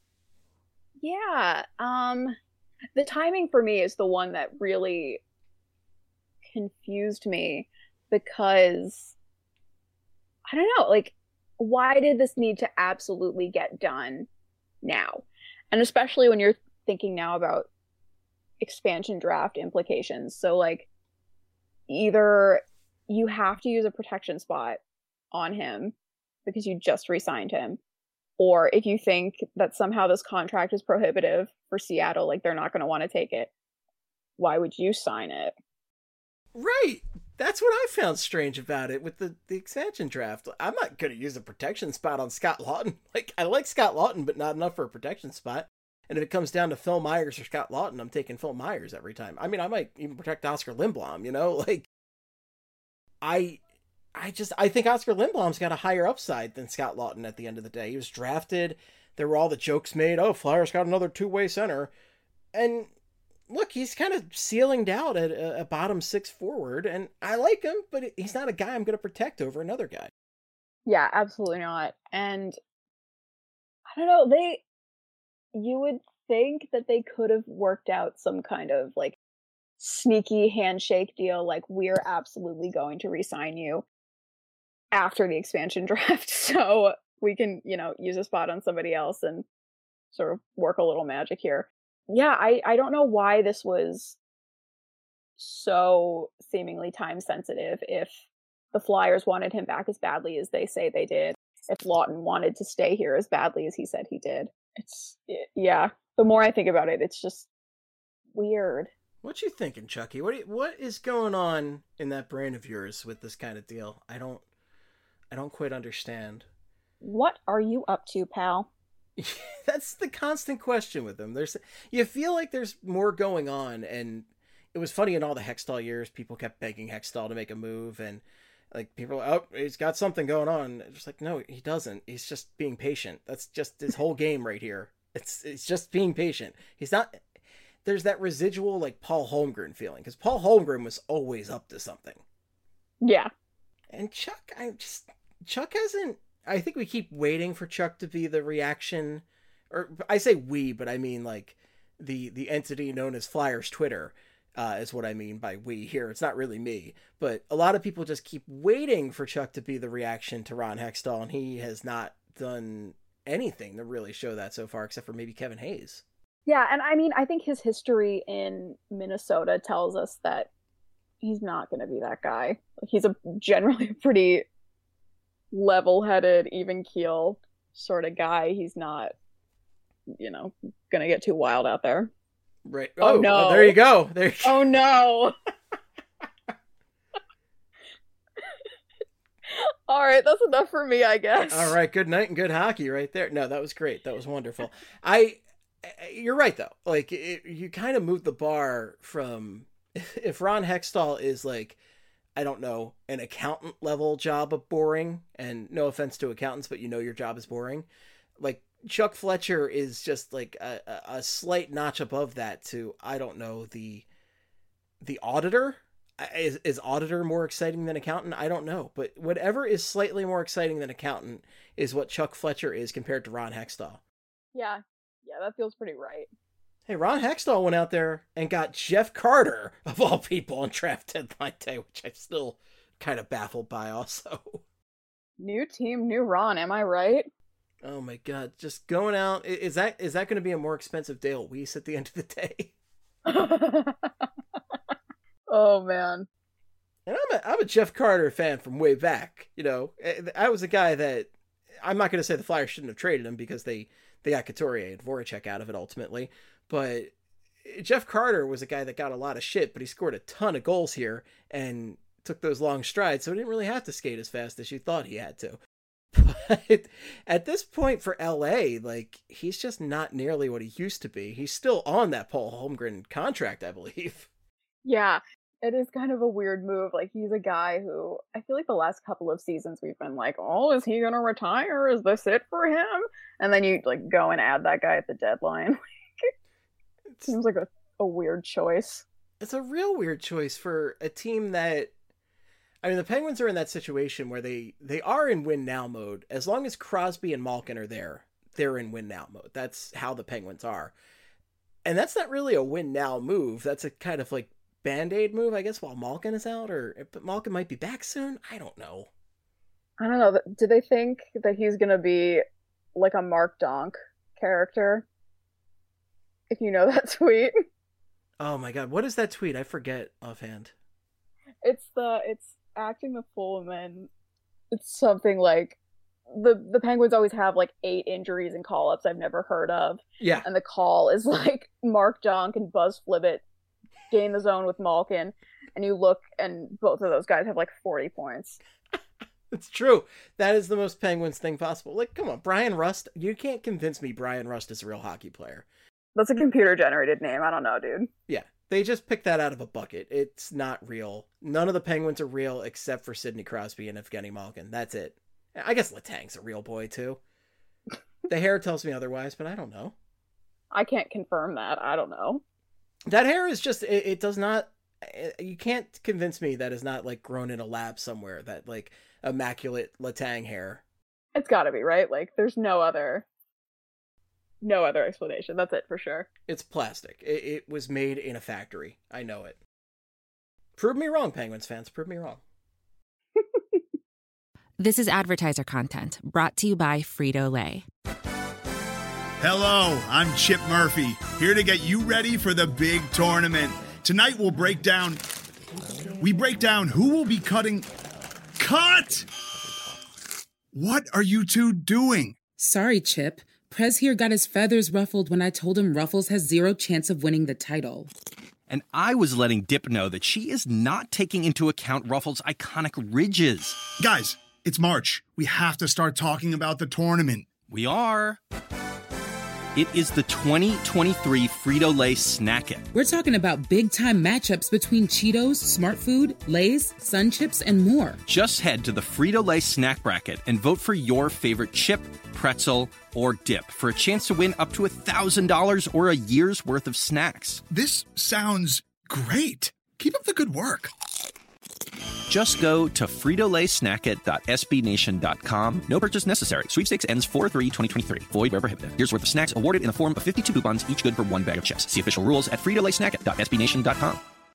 Yeah. The timing for me is the one that really confused me, because I don't know, like, why did this need to absolutely get done now? And especially when you're thinking now about expansion draft implications. So like, either you have to use a protection spot on him because you just re-signed him, or if you think that somehow this contract is prohibitive for Seattle, like they're not going to want to take it, why would you sign it? Right. That's what I found strange about it with the expansion draft. I'm not going to use a protection spot on Scott Laughton. Like, I like Scott Laughton, but not enough for a protection spot. And if it comes down to Phil Myers or Scott Laughton, I'm taking Phil Myers every time. I mean, I might even protect Oscar Lindblom, Like, I think Oscar Lindblom's got a higher upside than Scott Laughton at the end of the day. He was drafted there were all the jokes made. Oh, Flyers got another two-way center. And look, he's kind of ceilinged out at a bottom six forward, and I like him, but he's not a guy I'm going to protect over another guy. Yeah, absolutely not. And I don't know, you would think that they could have worked out some kind of like sneaky handshake deal, like we're absolutely going to re-sign you after the expansion draft so we can, use a spot on somebody else and sort of work a little magic here. Yeah, I don't know why this was so seemingly time sensitive if the Flyers wanted him back as badly as they say they did, if Lawton wanted to stay here as badly as he said he did. Yeah, the more I think about it, it's just weird. What you thinking, Chucky? What is going on in that brain of yours with this kind of deal? I don't quite understand. What are you up to, pal? That's the constant question with him. You feel like there's more going on, and it was funny in all the Hextall years, people kept begging Hextall to make a move, and like people are, oh, he's got something going on. Just like, no, he doesn't. He's just being patient. That's just his whole game right here. It's just being patient. He's not. There's that residual like Paul Holmgren feeling, because Paul Holmgren was always up to something. Yeah. And Chuck hasn't. I think we keep waiting for Chuck to be the reaction, or I say we, but I mean like the entity known as Flyers Twitter is what I mean by we here. It's not really me, but a lot of people just keep waiting for Chuck to be the reaction to Ron Hextall, and he has not done anything to really show that so far, except for maybe Kevin Hayes. Yeah, and I mean, I think his history in Minnesota tells us that he's not going to be that guy. He's generally pretty level-headed, even keel sort of guy. He's not, gonna get too wild out there. Right. Oh no. There you go. Oh no. All right, that's enough for me, I guess. All right, good night and good hockey right there. No, that was great. That was wonderful. You're right though. Like you kind of moved the bar from if Ron Hextall is like, I don't know, an accountant level job of boring, and no offense to accountants, but your job is boring. Like Chuck Fletcher is just like a slight notch above that to, I don't know, the auditor. Is auditor more exciting than accountant? I don't know, but whatever is slightly more exciting than accountant is what Chuck Fletcher is compared to Ron Hextall. Yeah, that feels pretty right. Hey, Ron Hextall went out there and got Jeff Carter, of all people, on draft deadline day, which I'm still kind of baffled by also. New team, new Ron, am I right? Oh my God, just going out. Is that going to be a more expensive Dale Weiss at the end of the day? Oh, man. And I'm a Jeff Carter fan from way back. I was a guy that, I'm not going to say the Flyers shouldn't have traded him because they got Couturier and Voracek out of it ultimately. But Jeff Carter was a guy that got a lot of shit, but he scored a ton of goals here and took those long strides, so he didn't really have to skate as fast as you thought he had to. But at this point for LA, like, he's just not nearly what he used to be. He's still on that Paul Holmgren contract, I believe. Yeah, it is kind of a weird move. Like, he's a guy who, I feel like the last couple of seasons we've been like, oh, is he going to retire? Is this it for him? And then you, like, go and add that guy at the deadline. It seems like a weird choice. It's a real weird choice for a team that, I mean, the Penguins are in that situation where they are in win now mode. As long as Crosby and Malkin are there, they're in win now mode. That's how the Penguins are. And that's not really a win now move. That's a kind of like Band-Aid move, I guess, while Malkin is out, but Malkin might be back soon. I don't know. Do they think that he's going to be like a Mark Donk character? If you know that tweet. Oh my God. What is that tweet? I forget offhand. It's acting the fool, and then it's something like the Penguins always have like 8 injuries and call-ups I've never heard of. Yeah. And the call is like Mark Donk and Buzz Flibbit gain the zone with Malkin, and you look and both of those guys have like 40 points. It's true. That is the most Penguins thing possible. Like, come on, Brian Rust. You can't convince me Brian Rust is a real hockey player. That's a computer-generated name. I don't know, dude. Yeah, they just picked that out of a bucket. It's not real. None of the Penguins are real except for Sidney Crosby and Evgeny Malkin. That's it. I guess Letang's a real boy, too. The hair tells me otherwise, but I don't know. I can't confirm that. I don't know. That hair is just, it does not, you can't convince me that is not like grown in a lab somewhere, that like immaculate Letang hair. It's gotta be, right? Like, there's no other explanation. That's it for sure. It's plastic. It was made in a factory. I know it. Prove me wrong, Penguins fans. Prove me wrong. This is advertiser content brought to you by Frito-Lay. Hello, I'm Chip Murphy, here to get you ready for the big tournament. Tonight we'll break down who will be cutting... Cut! What are you two doing? Sorry, Chip. Prez here got his feathers ruffled when I told him Ruffles has zero chance of winning the title. And I was letting Dip know that she is not taking into account Ruffles' iconic ridges. Guys, it's March. We have to start talking about the tournament. We are. It is the 2023 Frito-Lay Snack It. We're talking about big-time matchups between Cheetos, Smart Food, Lay's, Sun Chips, and more. Just head to the Frito-Lay Snack Bracket and vote for your favorite chip, pretzel, or dip for a chance to win up to $1,000 or a year's worth of snacks. This sounds great. Keep up the good work. Just go to fritolaysnackit.sbnation.com. No purchase necessary. Sweepstakes ends 4/3/2023. Void where prohibited. Year's worth of snacks awarded in the form of 52 coupons, each good for one bag of chips. See official rules at fritolaysnackit.sbnation.com.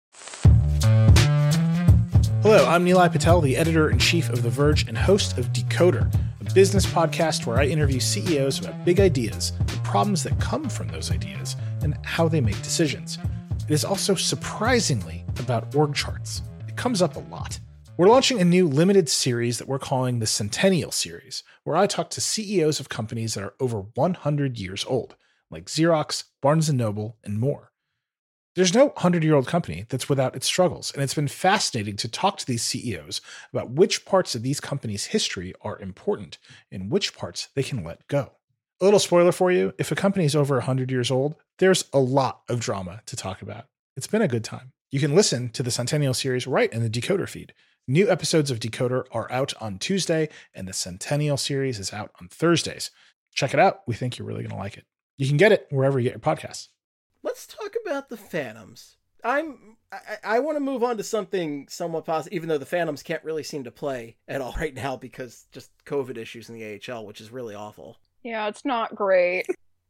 Hello, I'm Nilay Patel, the editor-in-chief of The Verge and host of Decoder, a business podcast where I interview CEOs about big ideas, the problems that come from those ideas, and how they make decisions. It is also surprisingly about org charts. It comes up a lot. We're launching a new limited series that we're calling the Centennial Series, where I talk to CEOs of companies that are over 100 years old, like Xerox, Barnes & Noble, and more. There's no 100-year-old company that's without its struggles, and it's been fascinating to talk to these CEOs about which parts of these companies' history are important and which parts they can let go. A little spoiler for you, if a company is over 100 years old, there's a lot of drama to talk about. It's been a good time. You can listen to the Centennial Series right in the Decoder feed. New episodes of Decoder are out on Tuesday, and the Centennial Series is out on Thursdays. Check it out. We think you're really going to like it. You can get it wherever you get your podcasts. Let's talk about the Phantoms. I want to move on to something somewhat positive, even though the Phantoms can't really seem to play at all right now because just COVID issues in the AHL, which is really awful. Yeah, it's not great.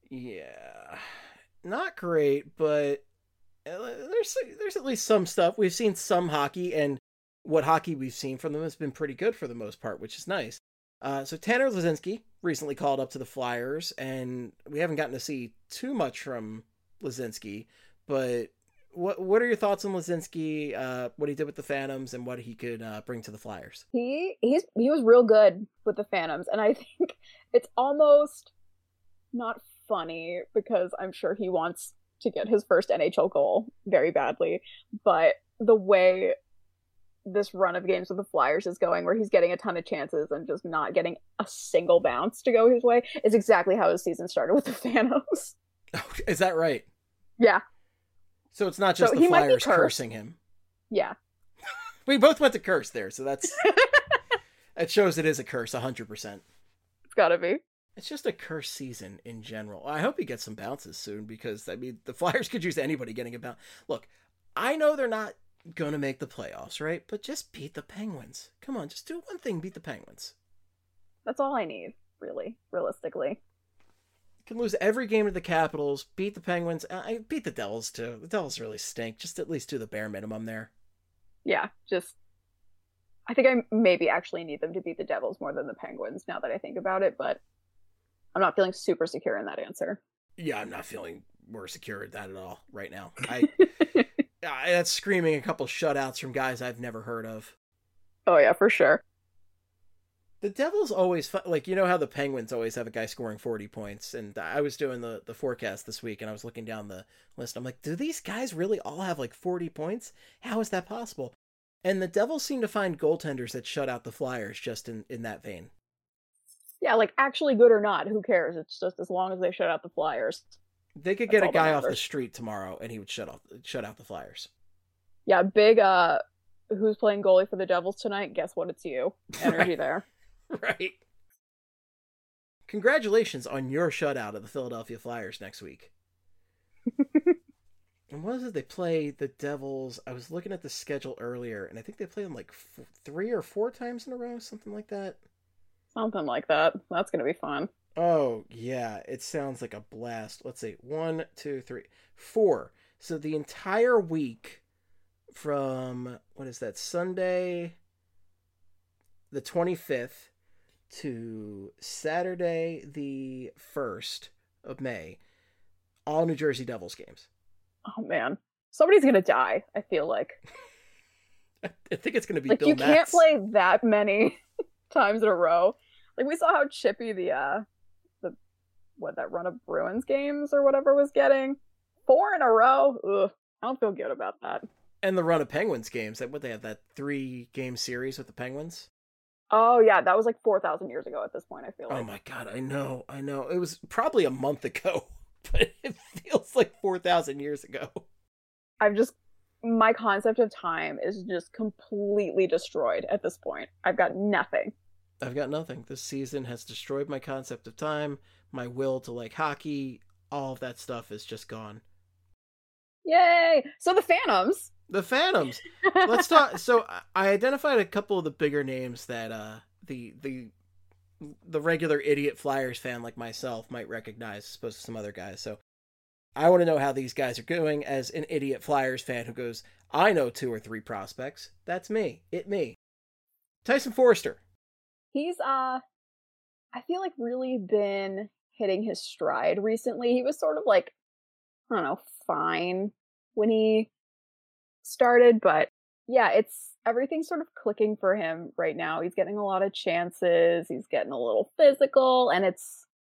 Yeah, not great, but there's at least some stuff. We've seen some hockey, and what hockey we've seen from them has been pretty good for the most part, which is nice. So Tanner Laczynski recently called up to the Flyers, and we haven't gotten to see too much from Laczynski, but what are your thoughts on Laczynski, what he did with the Phantoms, and what he could bring to the Flyers? He was real good with the Phantoms, and I think it's almost not funny because I'm sure he wants to get his first NHL goal very badly, but the way this run of games with the Flyers is going, where he's getting a ton of chances and just not getting a single bounce to go his way, is exactly how his season started with the Phantoms. Oh, is that right? Yeah. So it's not just the Flyers cursing him. Yeah. We both went to curse there, so that's that shows it is a curse, 100%. It's gotta be. It's just a curse season in general. I hope he gets some bounces soon because, I mean, the Flyers could use anybody getting a bounce. Look, I know they're not going to make the playoffs, right? But just beat the Penguins. Come on, just do one thing, beat the Penguins. That's all I need, really, realistically. You can lose every game to the Capitals, beat the Penguins. I beat the Devils, too. The Devils really stink. Just at least do the bare minimum there. Yeah, I think I maybe actually need them to beat the Devils more than the Penguins now that I think about it, but I'm not feeling super secure in that answer. Yeah, I'm not feeling more secure at that at all right now. That's screaming a couple shutouts from guys I've never heard of. Oh yeah, for sure. The Devils always, like, you know how the Penguins always have a guy scoring 40 points, and I was doing the forecast this week, and I was looking down the list. I'm like, do these guys really all have like 40 points? How is that possible? And the Devils seem to find goaltenders that shut out the Flyers just in that vein. Yeah, like, actually good or not, who cares? It's just as long as they shut out the Flyers. They could get a guy off the street tomorrow, and he would shut out the Flyers. Yeah, big, who's playing goalie for the Devils tonight? Guess what? It's you. Energy right there. Right. congratulations on your shutout of the Philadelphia Flyers next week. And what is it? They play the Devils. I was looking at the schedule earlier, and I think they play them like 3 or 4 times in a row, something like that. Something like that. That's going to be fun. Oh, yeah. It sounds like a blast. Let's see. 1, 2, 3, 4. So the entire week from, what is that, Sunday the 25th to Saturday the 1st of May, all New Jersey Devils games. Oh, man. Somebody's going to die, I feel like. I think it's going to be like, Bill you Metz. can't play that many times in a row. Like, we saw how chippy that run of Bruins games or whatever was getting. 4 in a row? Ugh, I don't feel good about that. And the run of Penguins games. What they have, that 3-game series with the Penguins? Oh, yeah, that was like 4,000 years ago at this point, I feel like. Oh, my God, I know. It was probably a month ago, but it feels like 4,000 years ago. My concept of time is just completely destroyed at this point. I've got nothing. This season has destroyed my concept of time, my will to like hockey. All of that stuff is just gone. Yay! So the Phantoms. Let's talk. So I identified a couple of the bigger names that the regular idiot Flyers fan like myself might recognize, as opposed to some other guys. So I want to know how these guys are doing as an idiot Flyers fan who goes, I know 2 or 3 prospects. That's me. Tyson Foerster. He's, I feel like really been hitting his stride recently. He was sort of like, I don't know, fine when he started, but yeah, everything's sort of clicking for him right now. He's getting a lot of chances. He's getting a little physical, and it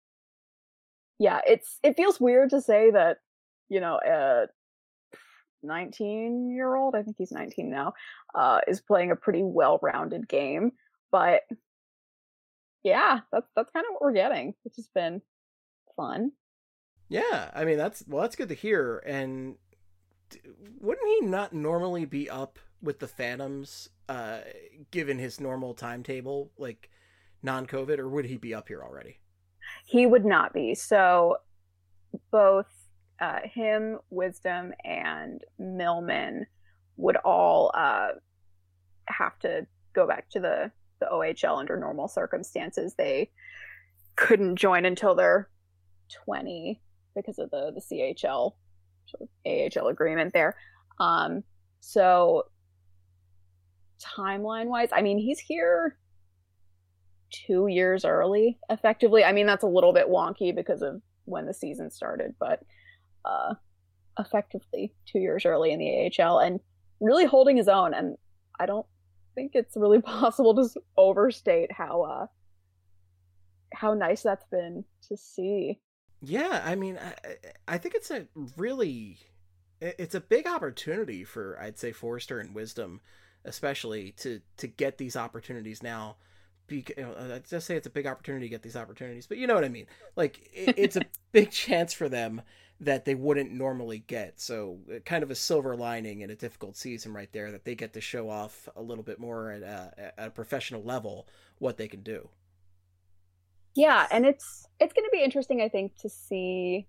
feels weird to say that, a 19-year-old, I think he's 19 now, is playing a pretty well-rounded game, but yeah, that's kind of what we're getting, which has been fun. Yeah, I mean, that's good to hear. And wouldn't he not normally be up with the Phantoms, given his normal timetable, like non-COVID, or would he be up here already? He would not be. So both him, Wisdom, and Millman would all have to go back to the OHL under normal circumstances. They couldn't join until they're 20 because of the CHL sort of AHL agreement there. So timeline wise, I mean, he's here 2 years early, effectively. I mean, that's a little bit wonky because of when the season started, but effectively 2 years early in the AHL and really holding his own. And I don't think it's really possible to overstate how nice that's been to see. Yeah, I mean, I think it's a big opportunity for, I'd say, Foerster and Wisdom, especially to get these opportunities now. I'd just say it's a big opportunity to get these opportunities, but you know what I mean? Like, it's a big chance for them that they wouldn't normally get. So kind of a silver lining in a difficult season right there, that they get to show off a little bit more at a professional level what they can do. Yeah, and it's going to be interesting, I think, to see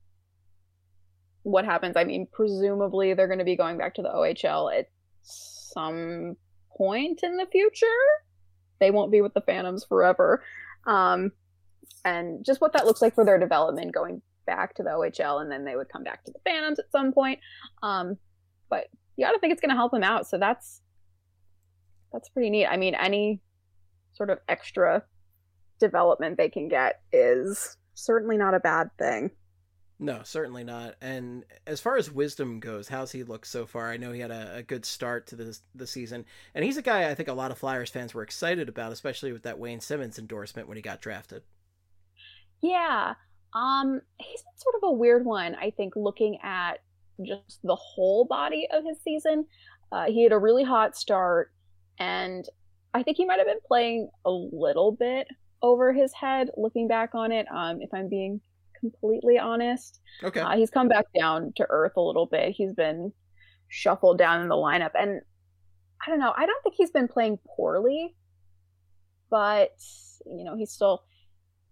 what happens. I mean, presumably they're going to be going back to the OHL at some point in the future. They won't be with the Phantoms forever. And just what that looks like for their development going back to the OHL, and then they would come back to the Phantoms at some point. But you got to think it's going to help them out. So that's pretty neat. I mean, any sort of extra development they can get is certainly not a bad thing. No, certainly not. And as far as Wisdom goes, how's he looked so far? I know he had a good start to the season, and he's a guy I think a lot of Flyers fans were excited about, especially with that Wayne Simmons endorsement when he got drafted. Yeah, he's been sort of a weird one, I think, looking at just the whole body of his season. He had a really hot start, and I think he might have been playing a little bit over his head looking back on it, if I'm being completely honest. Okay. He's come back down to earth a little bit. He's been shuffled down in the lineup, and I don't know, I don't think he's been playing poorly, but he's still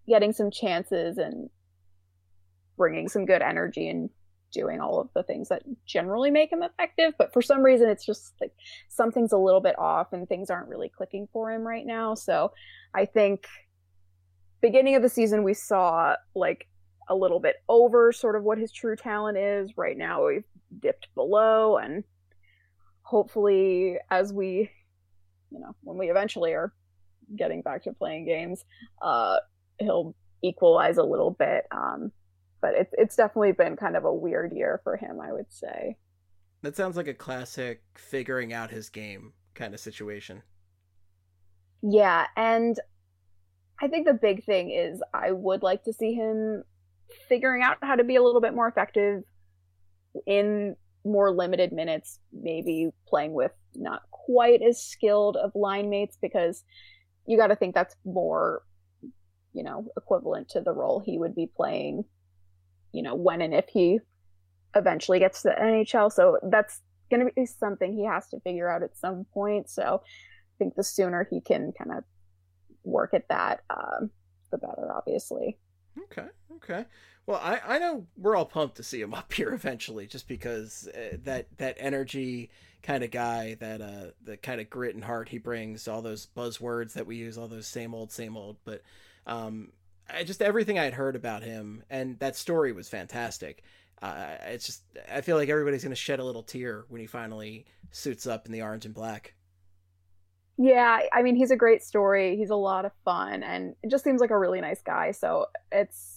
getting some chances and bringing some good energy and doing all of the things that generally make him effective. But for some reason, it's just like something's a little bit off and things aren't really clicking for him right now. So I think beginning of the season, we saw like a little bit over sort of what his true talent is. Right now, we've dipped below, and hopefully as we, when we eventually are getting back to playing games, he'll equalize a little bit. But it's definitely been kind of a weird year for him, I would say. That sounds like a classic figuring out his game kind of situation. Yeah, and I think the big thing is I would like to see him figuring out how to be a little bit more effective in more limited minutes, maybe playing with not quite as skilled of line mates, because you got to think that's more, equivalent to the role he would be playing, when and if he eventually gets to the NHL. So that's going to be something he has to figure out at some point. So I think the sooner he can kind of work at that, the better, obviously. Okay. Well, I know we're all pumped to see him up here eventually, just because that energy kind of guy, that the kind of grit and heart he brings, all those buzzwords that we use, all those same old, but just everything I had heard about him, and that story was fantastic. It's just, I feel like everybody's going to shed a little tear when he finally suits up in the orange and black. Yeah, I mean, he's a great story. He's a lot of fun, and it just seems like a really nice guy. So it's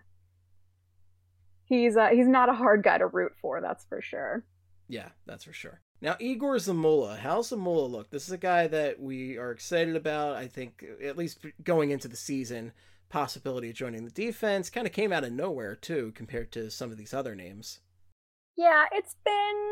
he's not a hard guy to root for, that's for sure. Yeah, that's for sure. Now, Igor Zamula. How's Zamula look? This is a guy that we are excited about. I think, at least going into the season, possibility of joining the defense. Kind of came out of nowhere, too, compared to some of these other names. Yeah, it's been,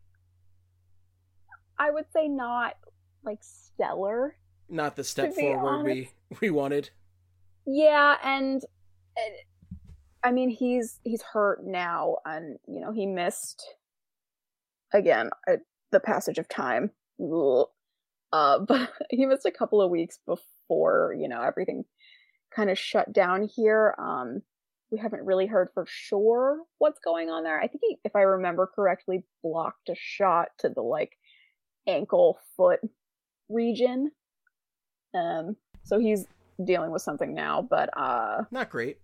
I would say, not like stellar. Not the step forward we wanted. Yeah, and I mean, he's hurt now, and he missed again the passage of time. But he missed a couple of weeks before everything kind of shut down here. We haven't really heard for sure what's going on there. I think he, if I remember correctly, blocked a shot to the ankle foot region. So he's dealing with something now, but not great.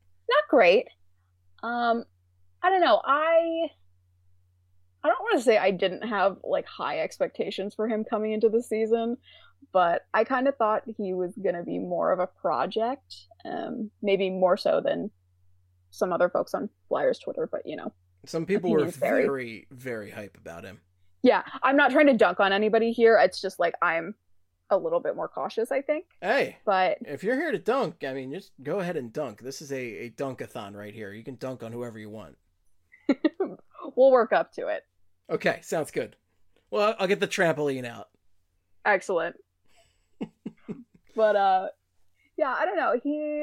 I don't know. I don't want to say I didn't have high expectations for him coming into the season, but I kind of thought he was going to be more of a project, maybe more so than some other folks on Flyers Twitter, but some people were very, very hype about him. Yeah, I'm not trying to dunk on anybody here. It's just I'm a little bit more cautious, I think. Hey, but if you're here to dunk, I mean, just go ahead and dunk. This is a dunkathon right here. You can dunk on whoever you want. We'll work up to it. Okay, sounds good. Well, I'll get the trampoline out. Excellent. But yeah, I don't know.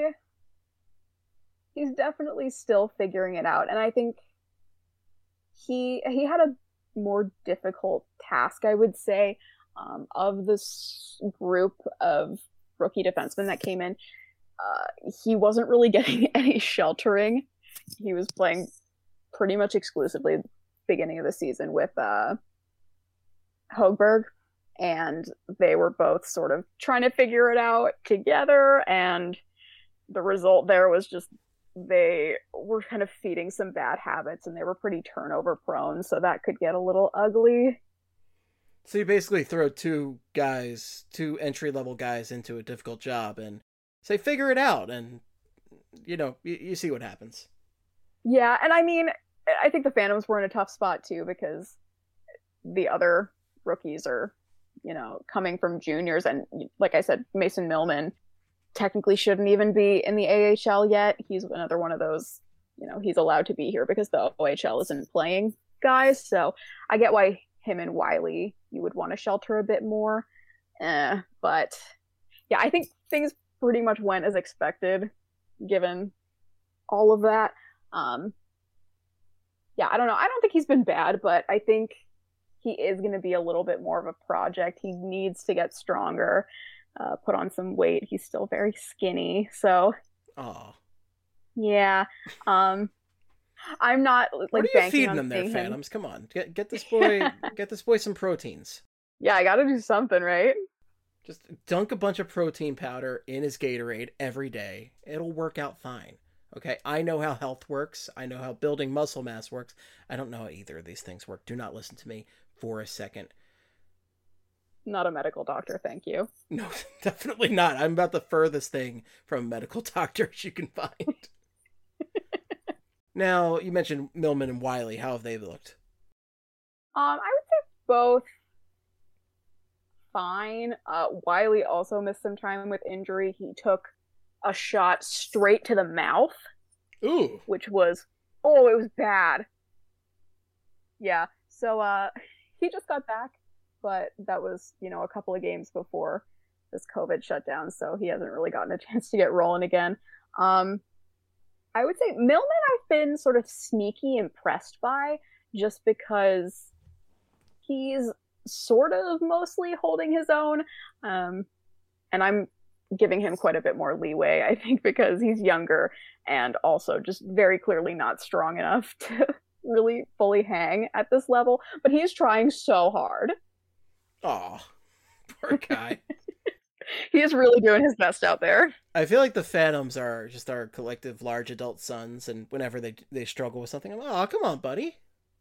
He's definitely still figuring it out, and I think he had a more difficult task, I would say, of this group of rookie defensemen that came in. He wasn't really getting any sheltering. He was playing pretty much exclusively at the beginning of the season with Högberg, and they were both sort of trying to figure it out together, and the result there was just they were kind of feeding some bad habits, and they were pretty turnover prone, so that could get a little ugly. So you basically throw two entry-level guys into a difficult job and say, figure it out, and you see what happens. Yeah, and I mean, I think the Phantoms were in a tough spot too, because the other rookies are, coming from juniors, and like I said, Mason Millman technically shouldn't even be in the AHL yet. He's another one of those, he's allowed to be here because the OHL isn't playing guys. So I get why him and Wiley you would want to shelter a bit more. But yeah, I think things pretty much went as expected given all of that. Yeah, I don't know. I don't think he's been bad, but I think he is going to be a little bit more of a project. He needs to get stronger, put on some weight. He's still very skinny. So Aw. Yeah. I'm not like What are you banking feeding on them there, seeing him. Phantoms? Come on, get this boy some proteins. Yeah, I gotta do something, right? Just dunk a bunch of protein powder in his Gatorade every day. It'll work out fine. Okay, I know how health works. I know how building muscle mass works. I don't know how either of these things work. Do not listen to me for a second. Not a medical doctor, thank you. No, definitely not. I'm about the furthest thing from a medical doctor as you can find. Now, you mentioned Millman and Wiley. How have they looked? I would say both fine. Wiley also missed some time with injury. He took a shot straight to the mouth. Ooh. Which was, it was bad. Yeah, so he just got back, but that was, a couple of games before this COVID shutdown, so he hasn't really gotten a chance to get rolling again. I would say Millman I've been sort of sneaky impressed by, just because he's sort of mostly holding his own, and I'm giving him quite a bit more leeway, I think, because he's younger and also just very clearly not strong enough to really fully hang at this level, but he's trying so hard. Aw, poor guy. He is really doing his best out there. I feel like the Phantoms are just our collective large adult sons, and whenever they struggle with something, I'm like, oh, come on, buddy.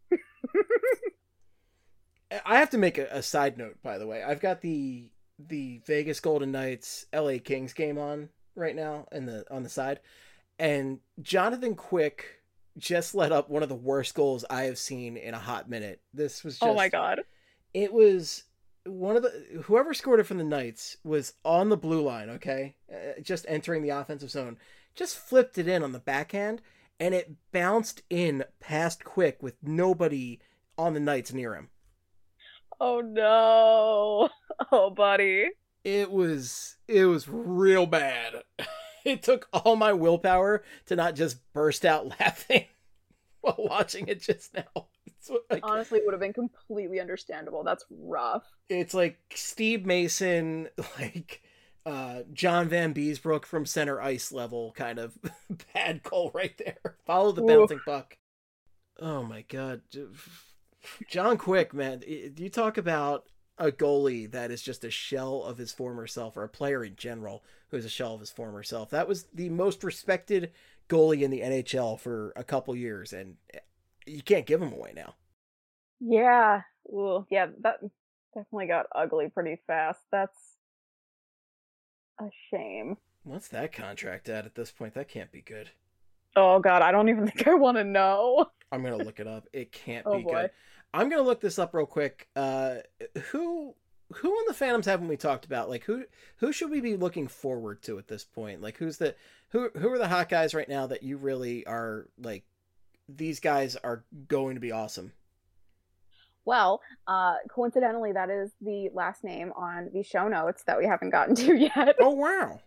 I have to make a side note, by the way. I've got the Vegas Golden Knights LA Kings game on right now on the side, and Jonathan Quick just let up one of the worst goals I have seen in a hot minute. This was just, oh my god. It was one of whoever scored it from the Knights was on the blue line, okay? Just entering the offensive zone. Just flipped it in on the backhand, and it bounced in past Quick with nobody on the Knights near him. Oh no. Oh, buddy. It was real bad. It took all my willpower to not just burst out laughing while watching it just now. Honestly, it would have been completely understandable. That's rough. It's like Steve Mason, like John Van Beesbrook from center ice level kind of bad goal right there. Follow the bouncing puck. Oh my god. John Quick, man, you talk about a goalie that is just a shell of his former self, or a player in general who is a shell of his former self. That was the most respected goalie in the NHL for a couple years, and you can't give him away now. Yeah. Well, yeah, that definitely got ugly pretty fast. That's a shame. What's that contract at this point? That can't be good. Oh god, I don't even think I want to know. I'm going to look it up. It can't Oh be boy. good. I'm going to look this up real quick. Who on the Phantoms haven't we talked about? Like who should we be looking forward to at this point? Like who are the hot guys right now that you really are like, these guys are going to be awesome? Well, coincidentally, that is the last name on the show notes that we haven't gotten to yet. Oh, wow.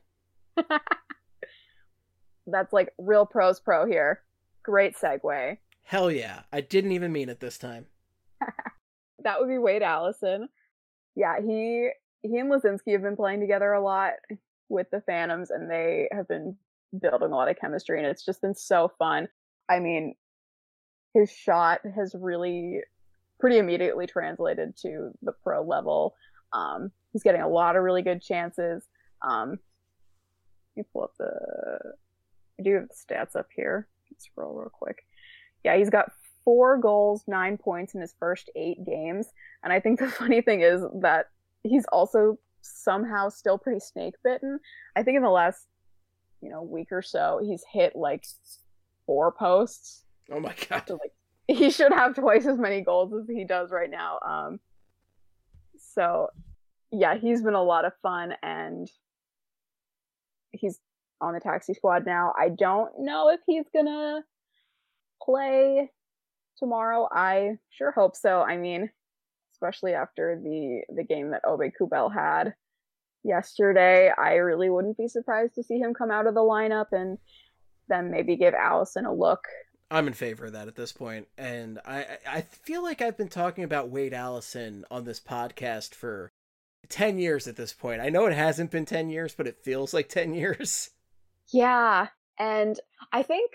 That's like real pros pro here. Great segue. Hell yeah. I didn't even mean it this time. That would be Wade Allison. Yeah, he and Lazinski have been playing together a lot with the Phantoms, and they have been building a lot of chemistry, and it's just been so fun. I mean, his shot has really pretty immediately translated to the pro level. He's getting a lot of really good chances. Let me pull up I do have the stats up here. Let's scroll real quick. Yeah, he's got 4 goals, 9 points in his first 8 games. And I think the funny thing is that he's also somehow still pretty snake bitten. I think in the last, week or so, he's hit like 4 posts. Oh my god. So, like, he should have twice as many goals as he does right now. So yeah, he's been a lot of fun, and he's on the taxi squad now. I don't know if he's gonna play tomorrow. I sure hope so. I mean, especially after the game that Obe Kubel had yesterday, I really wouldn't be surprised to see him come out of the lineup and then maybe give Allison a look. I'm in favor of that at this point, and I feel like I've been talking about Wade Allison on this podcast for 10 years at this point. I know it hasn't been 10 years, but it feels like 10 years. Yeah, and I think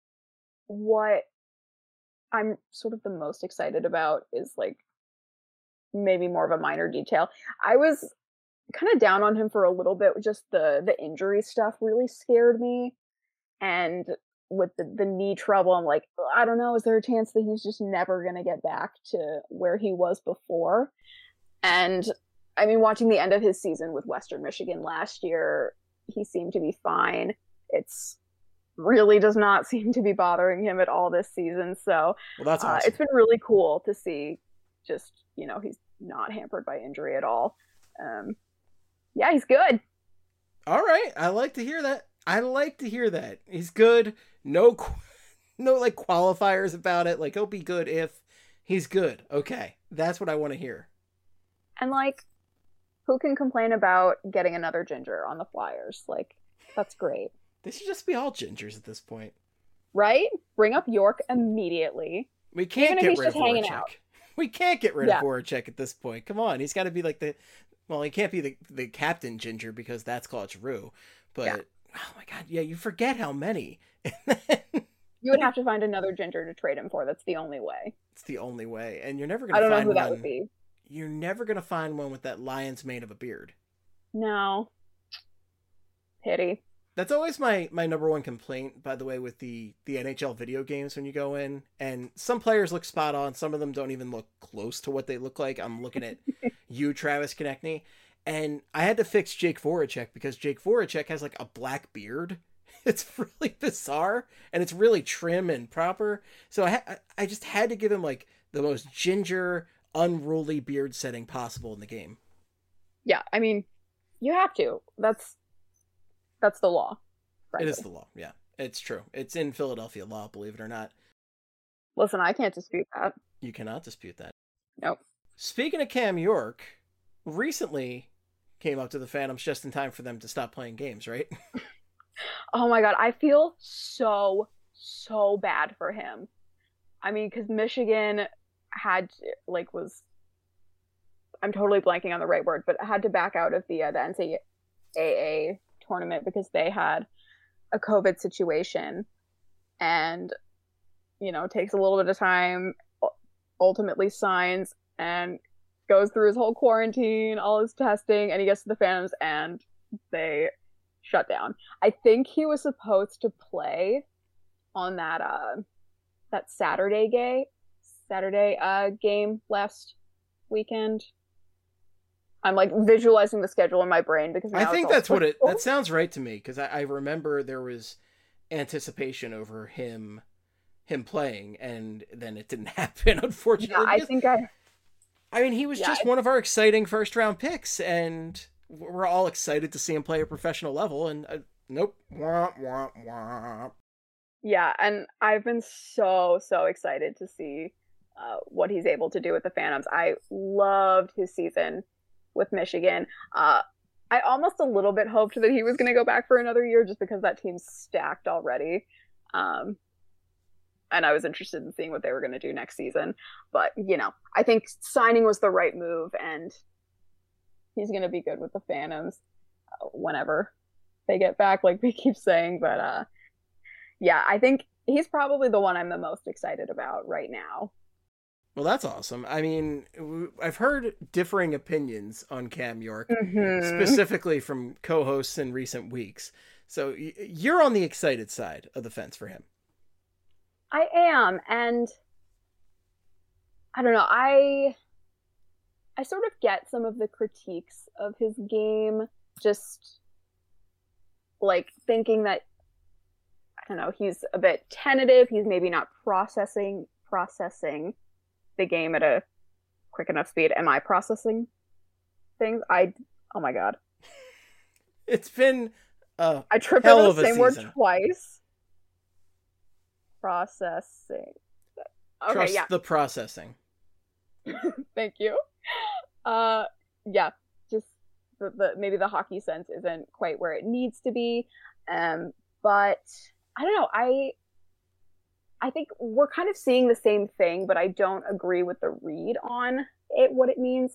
what I'm sort of the most excited about is like maybe more of a minor detail. I was kind of down on him for a little bit. Just the injury stuff really scared me, and with the knee trouble, I'm like, I don't know, is there a chance that he's just never gonna get back to where he was before? And I mean, watching the end of his season with Western Michigan last year, he seemed to be fine. It's really does not seem to be bothering him at all this season. So Well, that's awesome. It's been really cool to see just, he's not hampered by injury at all. Yeah, he's good. All right. I like to hear that. He's good. No like qualifiers about it. Like, he'll be good if he's good. Okay. That's what I want to hear. And like, who can complain about getting another ginger on the Flyers? Like, that's great. They should just be all gingers at this point. Right? Bring up York immediately. We can't Even if get he's rid of just hanging Voracek. out. We can't get rid of Voracek at this point. Come on. He's got to be like he can't be the captain ginger because that's Claude Giroux. But, oh my God. Yeah, you forget how many. You would have to find another ginger to trade him for. That's the only way. It's the only way. And you're never going to find I don't know who one. that would be. You're never going to find one with that lion's mane of a beard. No. Pity. That's always my number one complaint, by the way, with the NHL video games when you go in. And some players look spot on. Some of them don't even look close to what they look like. I'm looking at you, Travis Konechny. And I had to fix Jake Voracek because Jake Voracek has like a black beard. It's really bizarre. And it's really trim and proper. So I just had to give him like the most ginger, unruly beard setting possible in the game. Yeah, I mean, you have to. That's the law. Frankly. It is the law. Yeah, it's true. It's in Philadelphia law, believe it or not. Listen, I can't dispute that. You cannot dispute that. Nope. Speaking of Cam York, recently came up to the Phantoms just in time for them to stop playing games, right? Oh my God, I feel so bad for him. I mean, because Michigan had I'm totally blanking on the right word, but had to back out of the NCAA tournament because they had a COVID situation, and takes a little bit of time, ultimately signs and goes through his whole quarantine, all his testing, and he gets to the Phantoms and they shut down. I think he was supposed to play on that Saturday game last weekend. I'm like visualizing the schedule in my brain because I think that's what that sounds right to me, because I remember there was anticipation over him playing, and then it didn't happen, unfortunately. Yeah, I mean, he was just one of our exciting first round picks, and we're all excited to see him play a professional level, and nope. Wah, wah, wah. Yeah, and I've been so excited to see what he's able to do with the Phantoms. I loved his season with Michigan. I almost a little bit hoped that he was going to go back for another year just because that team's stacked already. And I was interested in seeing what they were going to do next season. But, I think signing was the right move, and he's going to be good with the Phantoms whenever they get back, like we keep saying. But, yeah, I think he's probably the one I'm the most excited about right now. Well, that's awesome. I mean, I've heard differing opinions on Cam York, specifically from co-hosts in recent weeks. So you're on the excited side of the fence for him. I am, and I don't know, I sort of get some of the critiques of his game, just like thinking that, I don't know, he's a bit tentative, he's maybe not processing the game at a quick enough speed. Am I processing things? Oh my God. It's been I tripped over the same word twice. Processing. Okay, Trust the processing. Thank you. Yeah, just the maybe the hockey sense isn't quite where it needs to be. But I don't know. I think we're kind of seeing the same thing, but I don't agree with the read on it, what it means.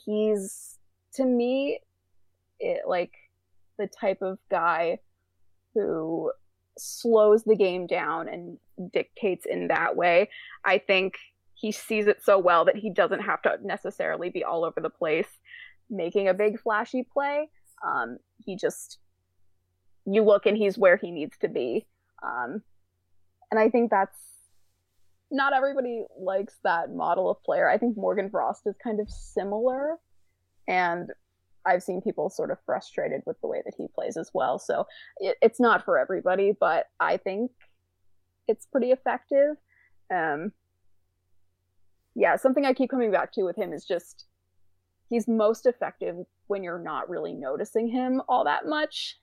He's, to me, like the type of guy who slows the game down and dictates in that way. I think he sees it so well that he doesn't have to necessarily be all over the place making a big flashy play. You look and he's where he needs to be. And I think that's, not everybody likes that model of player. I think Morgan Frost is kind of similar, and I've seen people sort of frustrated with the way that he plays as well. So it's not for everybody, but I think it's pretty effective. Something I keep coming back to with him is just he's most effective when you're not really noticing him all that much.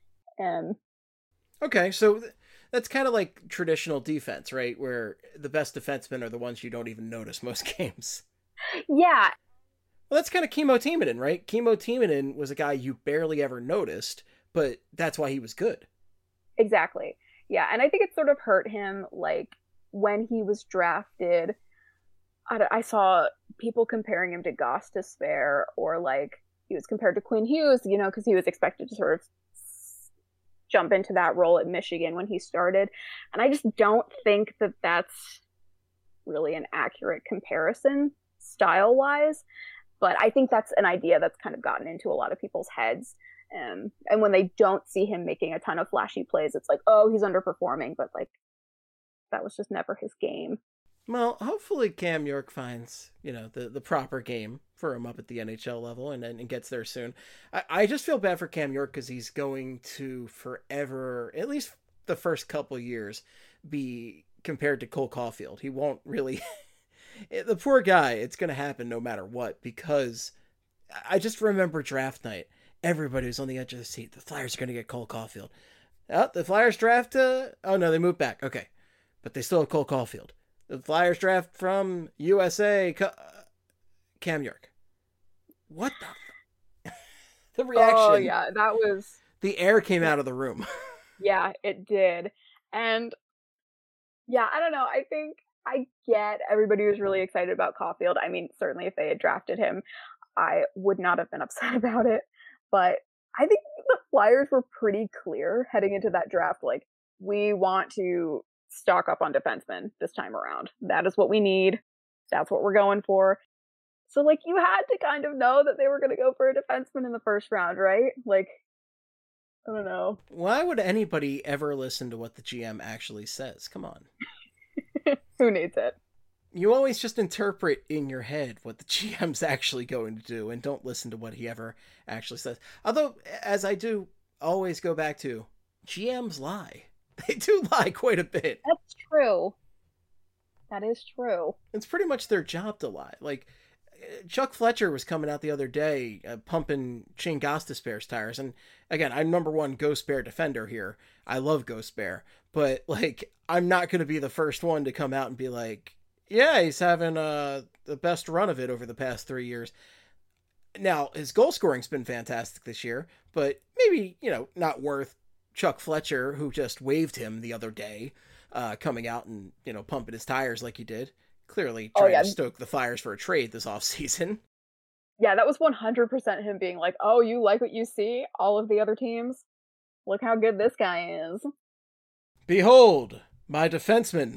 Okay, so that's kind of like traditional defense, right? Where the best defensemen are the ones you don't even notice most games. Yeah. Well, that's kind of Kimmo Timonen, right? Kimmo Timonen was a guy you barely ever noticed, but that's why he was good. Exactly. Yeah, and I think it sort of hurt him, like, when he was drafted. I saw people comparing him to Gostisbehere, or, like, he was compared to Quinn Hughes, because he was expected to sort of jump into that role at Michigan when he started. And I just don't think that that's really an accurate comparison style-wise. But I think that's an idea that's kind of gotten into a lot of people's heads. And when they don't see him making a ton of flashy plays, it's like, oh, he's underperforming. But, like, that was just never his game. Well, hopefully Cam York finds, the proper game for him up at the NHL level and gets there soon. I just feel bad for Cam York because he's going to forever, at least the first couple years, be compared to Cole Caulfield. He won't really... The poor guy, it's going to happen no matter what, because I just remember draft night. Everybody was on the edge of the seat. The Flyers are going to get Cole Caulfield. Oh, the Flyers draft... oh, no, they moved back. Okay. But they still have Cole Caulfield. The Flyers draft from USA, Cam York. What the... The reaction. Oh, yeah, that was... The air came out of the room. Yeah, it did. And, yeah, I don't know. I think I get everybody was really excited about Caulfield. I mean, certainly if they had drafted him, I would not have been upset about it. But I think the Flyers were pretty clear heading into that draft. Like, we want to stock up on defensemen this time around. That is what we need. That's what we're going for. So, like, you had to kind of know that they were going to go for a defenseman in the first round, right? Like, I don't know. Why would anybody ever listen to what the GM actually says? Come on. Who needs it? You always just interpret in your head what the GM's actually going to do and don't listen to what he ever actually says. Although, as I do always go back to, GMs lie. They do lie quite a bit. That's true. That is true. It's pretty much their job to lie. Like, Chuck Fletcher was coming out the other day pumping Shane Gostisbehere's tires. And again, I'm number one Ghost Bear defender here. I love Ghost Bear. But, like, I'm not going to be the first one to come out and be like, yeah, he's having the best run of it over the past 3 years. Now, his goal scoring's been fantastic this year, but maybe, not worth Chuck Fletcher, who just waved him the other day, coming out and, pumping his tires like he did. Clearly trying to stoke the Flyers for a trade this offseason. Yeah, that was 100% him being like, oh, you like what you see? All of the other teams? Look how good this guy is. Behold, my defenseman.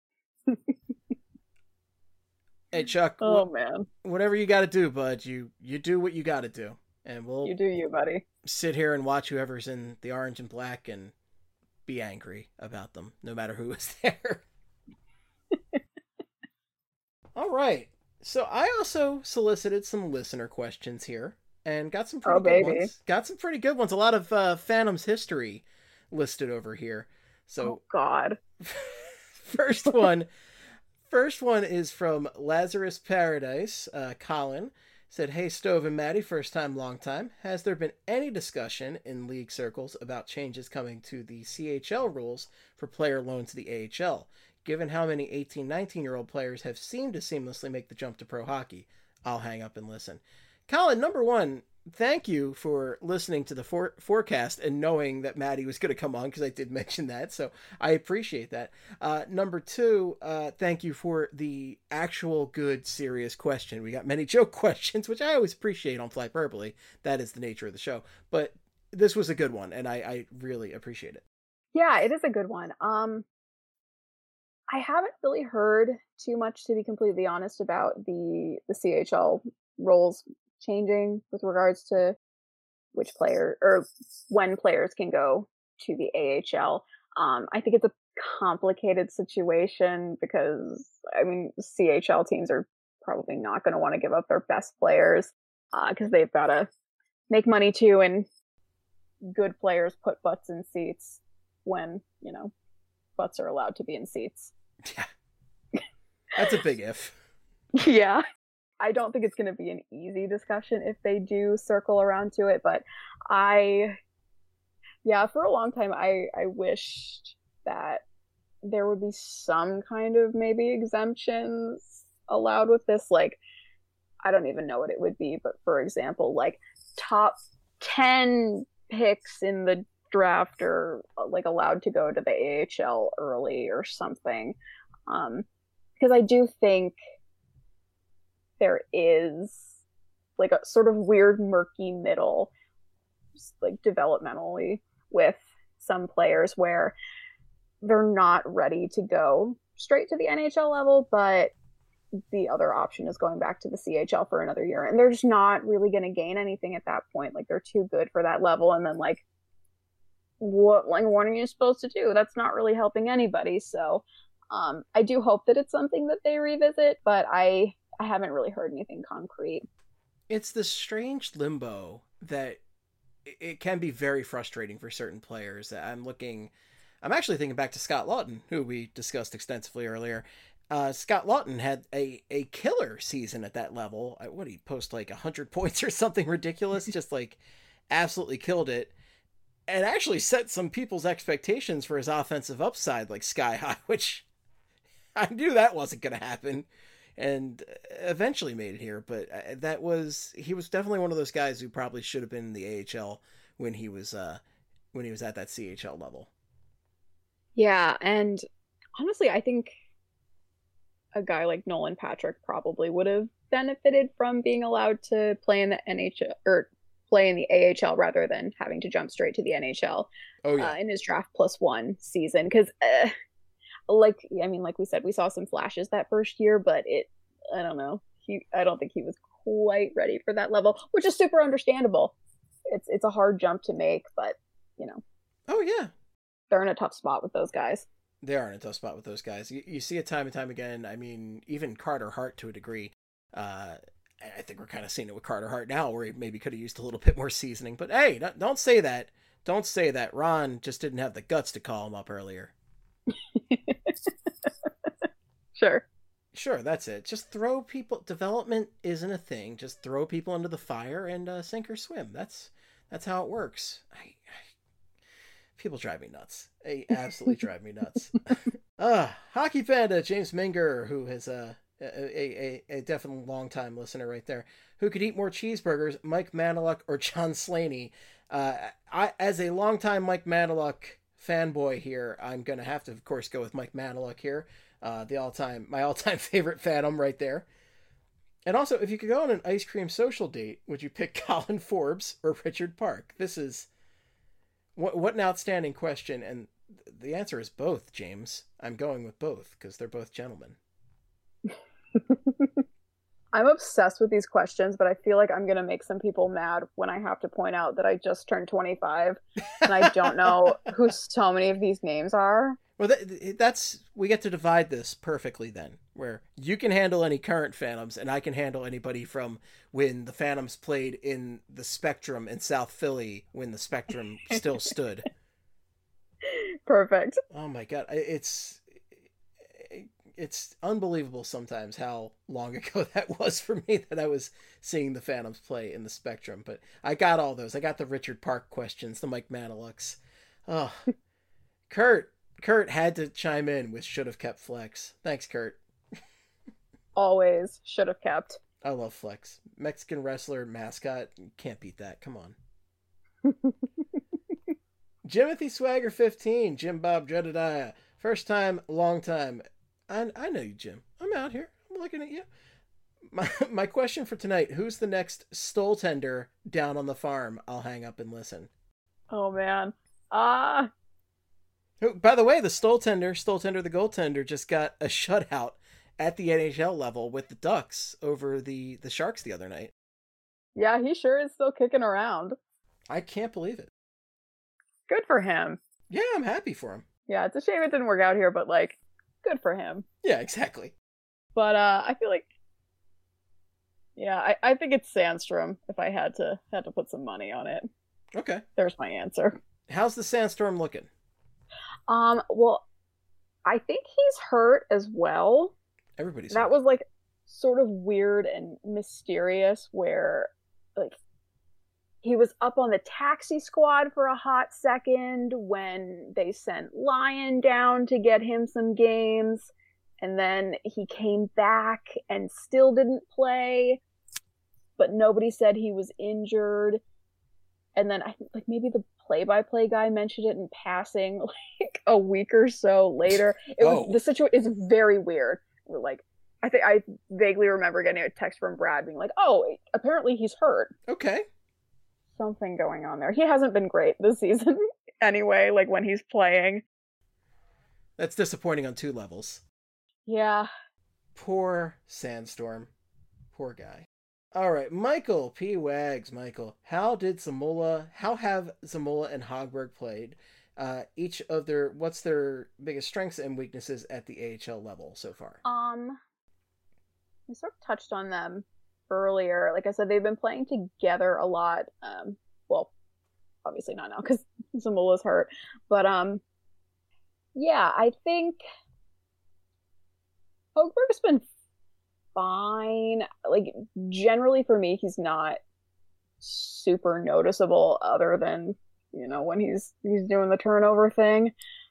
Hey, Chuck. Oh, man. Whatever you got to do, bud, you do what you got to do. And You do you, buddy. Sit here and watch whoever's in the orange and black and be angry about them, no matter who is there. All right. So I also solicited some listener questions here and got some pretty good ones. Got some pretty good ones. A lot of Phantom's history listed over here. So, oh, God. First one is from Lazarus Paradise. Colin said, hey, Stove and Maddie, first time, long time. Has there been any discussion in league circles about changes coming to the CHL rules for player loans to the AHL? Given how many 18, 19-year-old players have seemed to seamlessly make the jump to pro hockey. I'll hang up and listen. Colin, number one, thank you for listening to the forecast and knowing that Maddie was going to come on, because I did mention that, so I appreciate that. Number two, thank you for the actual good, serious question. We got many joke questions, which I always appreciate on Flyperbole. That is the nature of the show. But this was a good one, and I really appreciate it. Yeah, it is a good one. I haven't really heard too much, to be completely honest, about the CHL roles changing with regards to which player or when players can go to the AHL. I think it's a complicated situation because, I mean, CHL teams are probably not going to want to give up their best players because they've got to make money too, and good players put butts in seats when, you know, butts are allowed to be in seats. Yeah. That's a big if. Yeah. I don't think it's going to be an easy discussion if they do circle around to it, but for a long time, I wished that there would be some kind of maybe exemptions allowed with this. Like, I don't even know what it would be, but for example, like top 10 picks in the draft are like allowed to go to the AHL early or something. Because I do think there is like a sort of weird murky middle, just like developmentally, with some players where they're not ready to go straight to the NHL level, but the other option is going back to the CHL for another year, and they're just not really going to gain anything at that point. Like, they're too good for that level, and then like what are you supposed to do? That's not really helping anybody. So I do hope that it's something that they revisit, but I haven't really heard anything concrete. It's the strange limbo that it can be very frustrating for certain players. I'm actually thinking back to Scott Lawton, who we discussed extensively earlier. Scott Lawton had a killer season at that level. What did he post, like 100 points or something ridiculous? Just like absolutely killed it. And actually set some people's expectations for his offensive upside like sky high, which I knew that wasn't going to happen, and eventually made it here. But he was definitely one of those guys who probably should have been in the AHL when he was at that CHL level. Yeah, and honestly, I think a guy like Nolan Patrick probably would have benefited from being allowed to play in the NHL or play in the AHL rather than having to jump straight to the NHL. Oh, yeah. In his draft +1 season. Because, like we said, we saw some flashes that first year, but I don't know. I don't think he was quite ready for that level, which is super understandable. It's a hard jump to make, but, you know. Oh, yeah. They're in a tough spot with those guys. They are in a tough spot with those guys. You see it time and time again. I mean, even Carter Hart to a degree. I think we're kind of seeing it with Carter Hart now, where he maybe could have used a little bit more seasoning. But hey, don't say that. Don't say that. Ron just didn't have the guts to call him up earlier. Sure, that's it. Just throw people. Development isn't a thing. Just throw people into the fire and sink or swim. That's how it works. People drive me nuts. They absolutely drive me nuts. Hockey Panda James Minger, who has a definitely long-time listener right there. Who could eat more cheeseburgers, Mike Manilock or John Slaney? I, as a long-time Mike Manilock fanboy here, I'm going to have to, of course, go with Mike Manilock here. My all-time favorite Phantom right there. And also, if you could go on an ice cream social date, would you pick Colin Forbes or Richard Park? This is what an outstanding question. And the answer is both, James. I'm going with both because they're both gentlemen. I'm obsessed with these questions, but I feel like I'm going to make some people mad when I have to point out that I just turned 25 and I don't know who so many of these names are. Well, we get to divide this perfectly then, where you can handle any current Phantoms and I can handle anybody from when the Phantoms played in the Spectrum in South Philly when the Spectrum still stood. Perfect. Oh my God. It's unbelievable sometimes how long ago that was for me that I was seeing the Phantoms play in the Spectrum. But I got all those. I got the Richard Park questions, the Mike Manilocks. Oh, Kurt had to chime in with should have kept Flex. Thanks, Kurt. Always should have kept. I love Flex. Mexican wrestler, mascot. Can't beat that. Come on. Jimothy Swagger 15. Jim Bob Jedediah. First time, long time. I know you, Jim. I'm out here. I'm looking at you. My question for tonight, who's the next Stoltender down on the farm? I'll hang up and listen. Oh, man. Who, by the way, the Stoltender the goaltender, just got a shutout at the NHL level with the Ducks over the Sharks the other night. Yeah, he sure is still kicking around. I can't believe it. Good for him. Yeah, I'm happy for him. Yeah, it's a shame it didn't work out here, but like, good for him. Yeah, exactly. But I feel like, yeah, I think it's Sandstrom if I had to put some money on it. Okay. There's my answer. How's the Sandstorm looking? Well, I think he's hurt as well. Everybody's That hurt. was like sort of weird and mysterious where like he was up on the taxi squad for a hot second when they sent Lyon down to get him some games, and then he came back and still didn't play, but nobody said he was injured. And then I think like maybe the play-by-play guy mentioned it in passing like a week or so later. The situation is very weird. We're like, I think I vaguely remember getting a text from Brad being like, "Oh, apparently he's hurt." Okay. Something going on there. He hasn't been great this season anyway, like when he's playing. That's disappointing on 2 levels. Yeah. Poor Sandstorm. Poor guy. All right, Michael P. Wags. Michael, how have Zamula and Hogberg played? What's their biggest strengths and weaknesses at the AHL level so far? We sort of touched on them earlier. Like I said, they've been playing together a lot. Well, obviously not now because Zamula's hurt. But yeah, I think Hogberg's been fine. Like generally for me, he's not super noticeable other than, you know, when he's doing the turnover thing.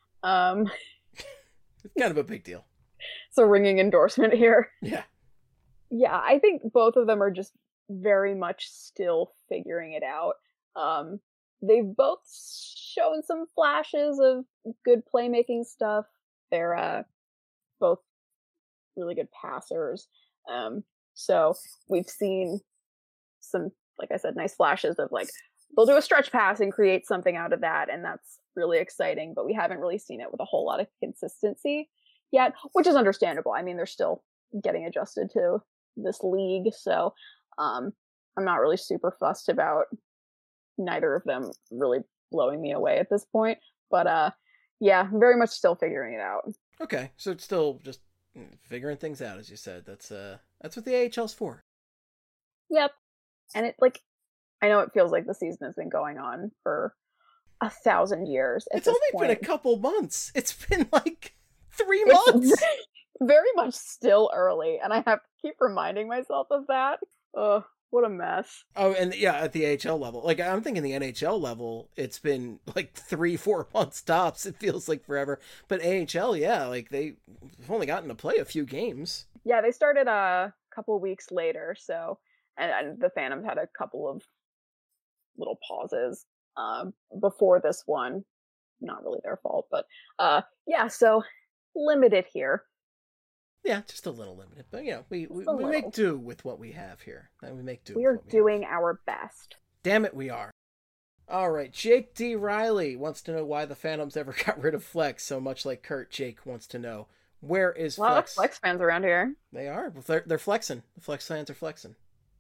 It's kind of a big deal. It's a ringing endorsement here. Yeah. Yeah, I think both of them are just very much still figuring it out. They've both shown some flashes of good playmaking stuff. They're both really good passers. So we've seen some, like I said, nice flashes of like, they'll do a stretch pass and create something out of that, and that's really exciting, but we haven't really seen it with a whole lot of consistency yet, which is understandable. I mean, they're still getting adjusted to this league, so I'm not really super fussed about neither of them really blowing me away at this point, but yeah, very much still figuring it out. Okay, so it's still just figuring things out, as you said. That's what the AHL's for. Yep. And it, like, I know it feels like the season has been going on for 1,000 years. It's only been a couple months. It's been like 3 months. It's very much still early, and I have to keep reminding myself of that. Ugh, what a mess. Oh, and yeah, at the AHL level. Like, I'm thinking the NHL level, it's been like 3-4 months tops. It feels like forever. But AHL, yeah, like they've only gotten to play a few games. Yeah, they started a couple weeks later, so, and the Phantoms had a couple of little pauses before this one. Not really their fault, but yeah, so limited here. Yeah, just a little limited, but you know, we make do with what we have here. We make do. We're doing our best. Damn it, we are. All right, Jake D. Riley wants to know why the Phantoms ever got rid of Flex. So much like Kurt, Jake wants to know, where is Flex? A lot of Flex fans around here. They are. They're flexing. The Flex fans are flexing.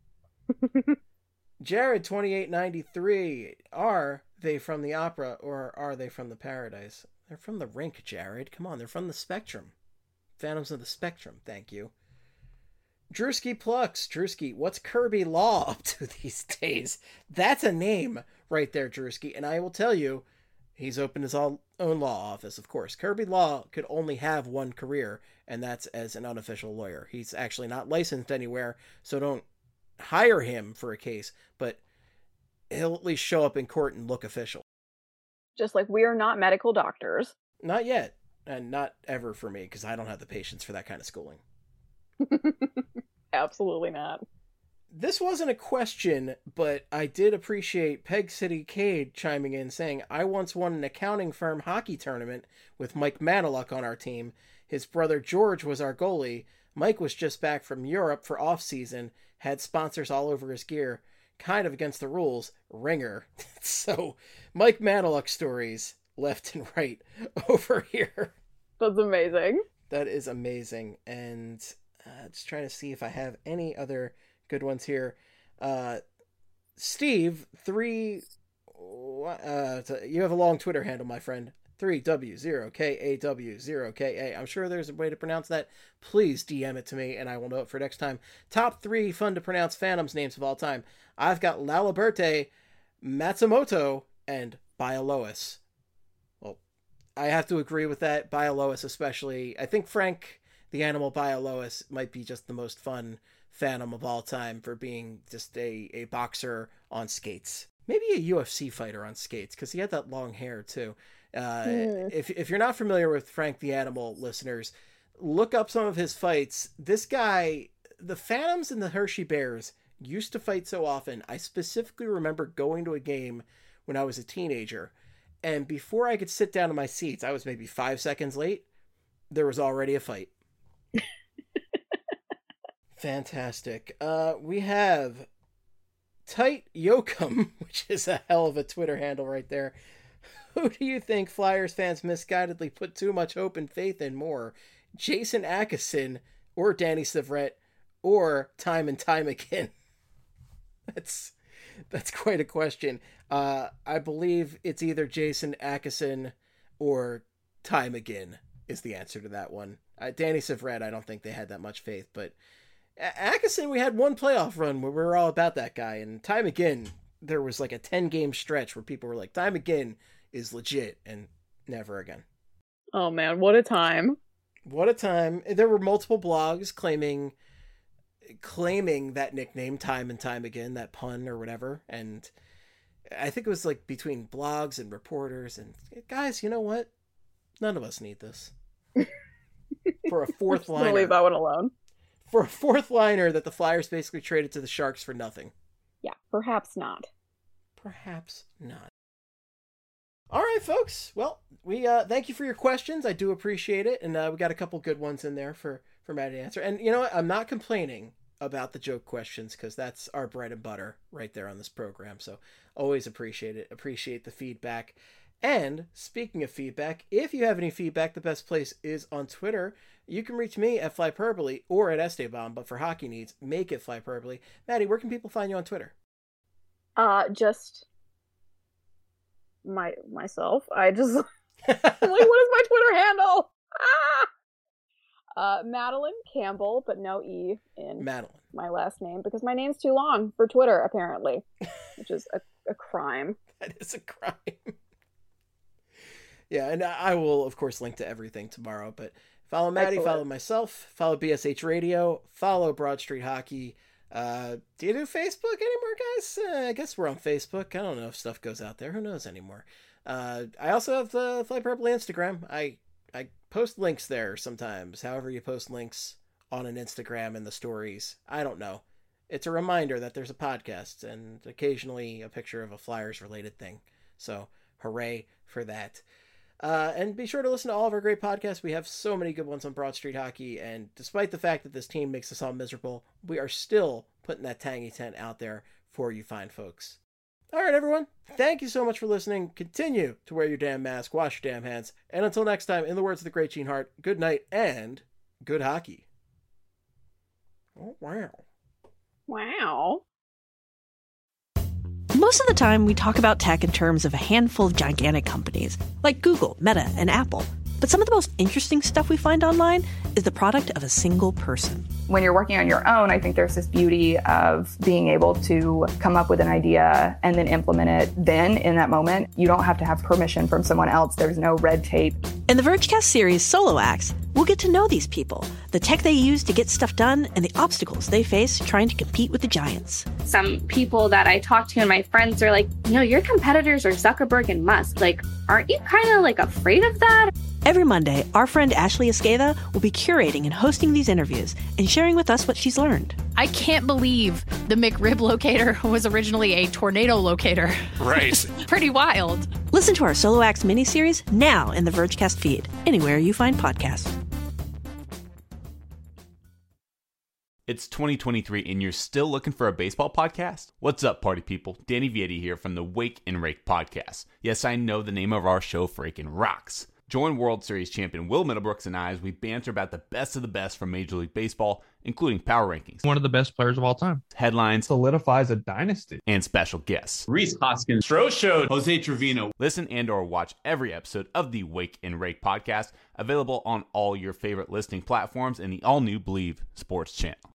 Jared 2893. Are they from the opera or are they from the Paradise? They're from the rink, Jared. Come on, they're from the Spectrum. Phantoms of the Spectrum, thank you. Drewski Plux. Drewski, what's Kirby Law up to these days? That's a name right there, Drewski. And I will tell you, he's opened his own law office, of course. Kirby Law could only have one career, and that's as an unofficial lawyer. He's actually not licensed anywhere, so don't hire him for a case, but he'll at least show up in court and look official. Just like we are not medical doctors. Not yet. And not ever for me, because I don't have the patience for that kind of schooling. Absolutely not. This wasn't a question, but I did appreciate Peg City Cade chiming in saying, I once won an accounting firm hockey tournament with Mike Maniluk on our team. His brother George was our goalie. Mike was just back from Europe for off-season, had sponsors all over his gear. Kind of against the rules. Ringer. So, Mike Maniluk stories. left and right over here. That's amazing. That is amazing. And just trying to see if I have any other good ones here. Steve, you have a long Twitter handle, my friend. 3W0KAW0KA. I'm sure there's a way to pronounce that. Please DM it to me and I will know it for next time. Top 3 fun to pronounce Phantoms names of all time. I've got Laliberte, Matsumoto, and Biolois. Well, I have to agree with that. Biolois especially. I think Frank the Animal Biolois might be just the most fun Phantom of all time for being just a boxer on skates. Maybe a UFC fighter on skates, because he had that long hair too. If you're not familiar with Frank the Animal, listeners, look up some of his fights. This guy, the Phantoms and the Hershey Bears used to fight so often. I specifically remember going to a game when I was a teenager, and before I could sit down in my seats, I was maybe 5 seconds late. There was already a fight. Fantastic. We have Tight Yoakum, which is a hell of a Twitter handle right there. Who do you think Flyers fans misguidedly put too much hope and faith in more? Jason Akeson or Danny Severette or time and time again? That's quite a question. I believe it's either Jason Akeson or time again is the answer to that one. Danny Severette, I don't think they had that much faith, but Akeson, we had one playoff run where we were all about that guy, and time again, there was like a 10-game stretch where people were like, time again is legit, and never again. Oh man, what a time. What a time. There were multiple blogs claiming that nickname time and time again, that pun or whatever, and I think it was like between blogs and reporters, and guys, you know what? None of us need this. For a fourth liner. Leave that one alone. For a fourth liner that the Flyers basically traded to the Sharks for nothing. Yeah, perhaps not. Perhaps not. All right, folks. Well, we thank you for your questions. I do appreciate it, and we got a couple good ones in there for Matt to answer. And you know what? I'm not complaining about the joke questions, because that's our bread and butter right there on this program. So always appreciate it. Appreciate the feedback. And speaking of feedback, if you have any feedback, the best place is on Twitter. You can reach me at Flyperbole or at Esteban, but for hockey needs, make it Flyperbole. Maddie, where can people find you on Twitter? Just myself. I just like, what is my Twitter handle? Madeline Campbell, but no E in Madeline, my last name, because my name's too long for Twitter, apparently, which is a crime. That is a crime. Yeah, and I will, of course, link to everything tomorrow, but follow Maddie, follow myself, follow BSH Radio, follow Broad Street Hockey. Do you do Facebook anymore, guys? I guess we're on Facebook. I don't know if stuff goes out there. Who knows anymore? I also have the Flyperbole Instagram. I post links there sometimes, however you post links on an Instagram in the stories. I don't know. It's a reminder that there's a podcast and occasionally a picture of a Flyers-related thing. So, hooray for that. And be sure to listen to all of our great podcasts. We have so many good ones on Broad Street Hockey, and despite the fact that this team makes us all miserable, we are still putting that tangy tent out there for you fine folks. All right, everyone. Thank you so much for listening. Continue to wear your damn mask, wash your damn hands, and until next time, in the words of the great Gene Hart, good night and good hockey. Oh, wow. Wow. Most of the time, we talk about tech in terms of a handful of gigantic companies, like Google, Meta, and Apple. But some of the most interesting stuff we find online is the product of a single person. When you're working on your own, I think there's this beauty of being able to come up with an idea and then implement it then in that moment. You don't have to have permission from someone else. There's no red tape. In the Vergecast series Solo Acts, we'll get to know these people, the tech they use to get stuff done, and the obstacles they face trying to compete with the giants. Some people that I talk to and my friends are like, you know, your competitors are Zuckerberg and Musk. Like, aren't you kind of like afraid of that? Every Monday, our friend Ashley Esqueda will be curating and hosting these interviews and sharing with us what she's learned. I can't believe the McRib locator was originally a tornado locator. Right. Pretty wild. Listen to our Solo Acts miniseries now in the Vergecast feed, anywhere you find podcasts. It's 2023 and you're still looking for a baseball podcast? What's up, party people? Danny Vietti here from the Wake and Rake podcast. Yes, I know the name of our show freaking rocks. Join World Series champion Will Middlebrooks and I as we banter about the best of the best from Major League Baseball, including power rankings, one of the best players of all time, headlines, solidifies a dynasty, and special guests. Rhys Hoskins, Stroh Show, Jose Trevino. Listen and or watch every episode of the Wake and Rake podcast, available on all your favorite listening platforms and the all-new Believe Sports channel.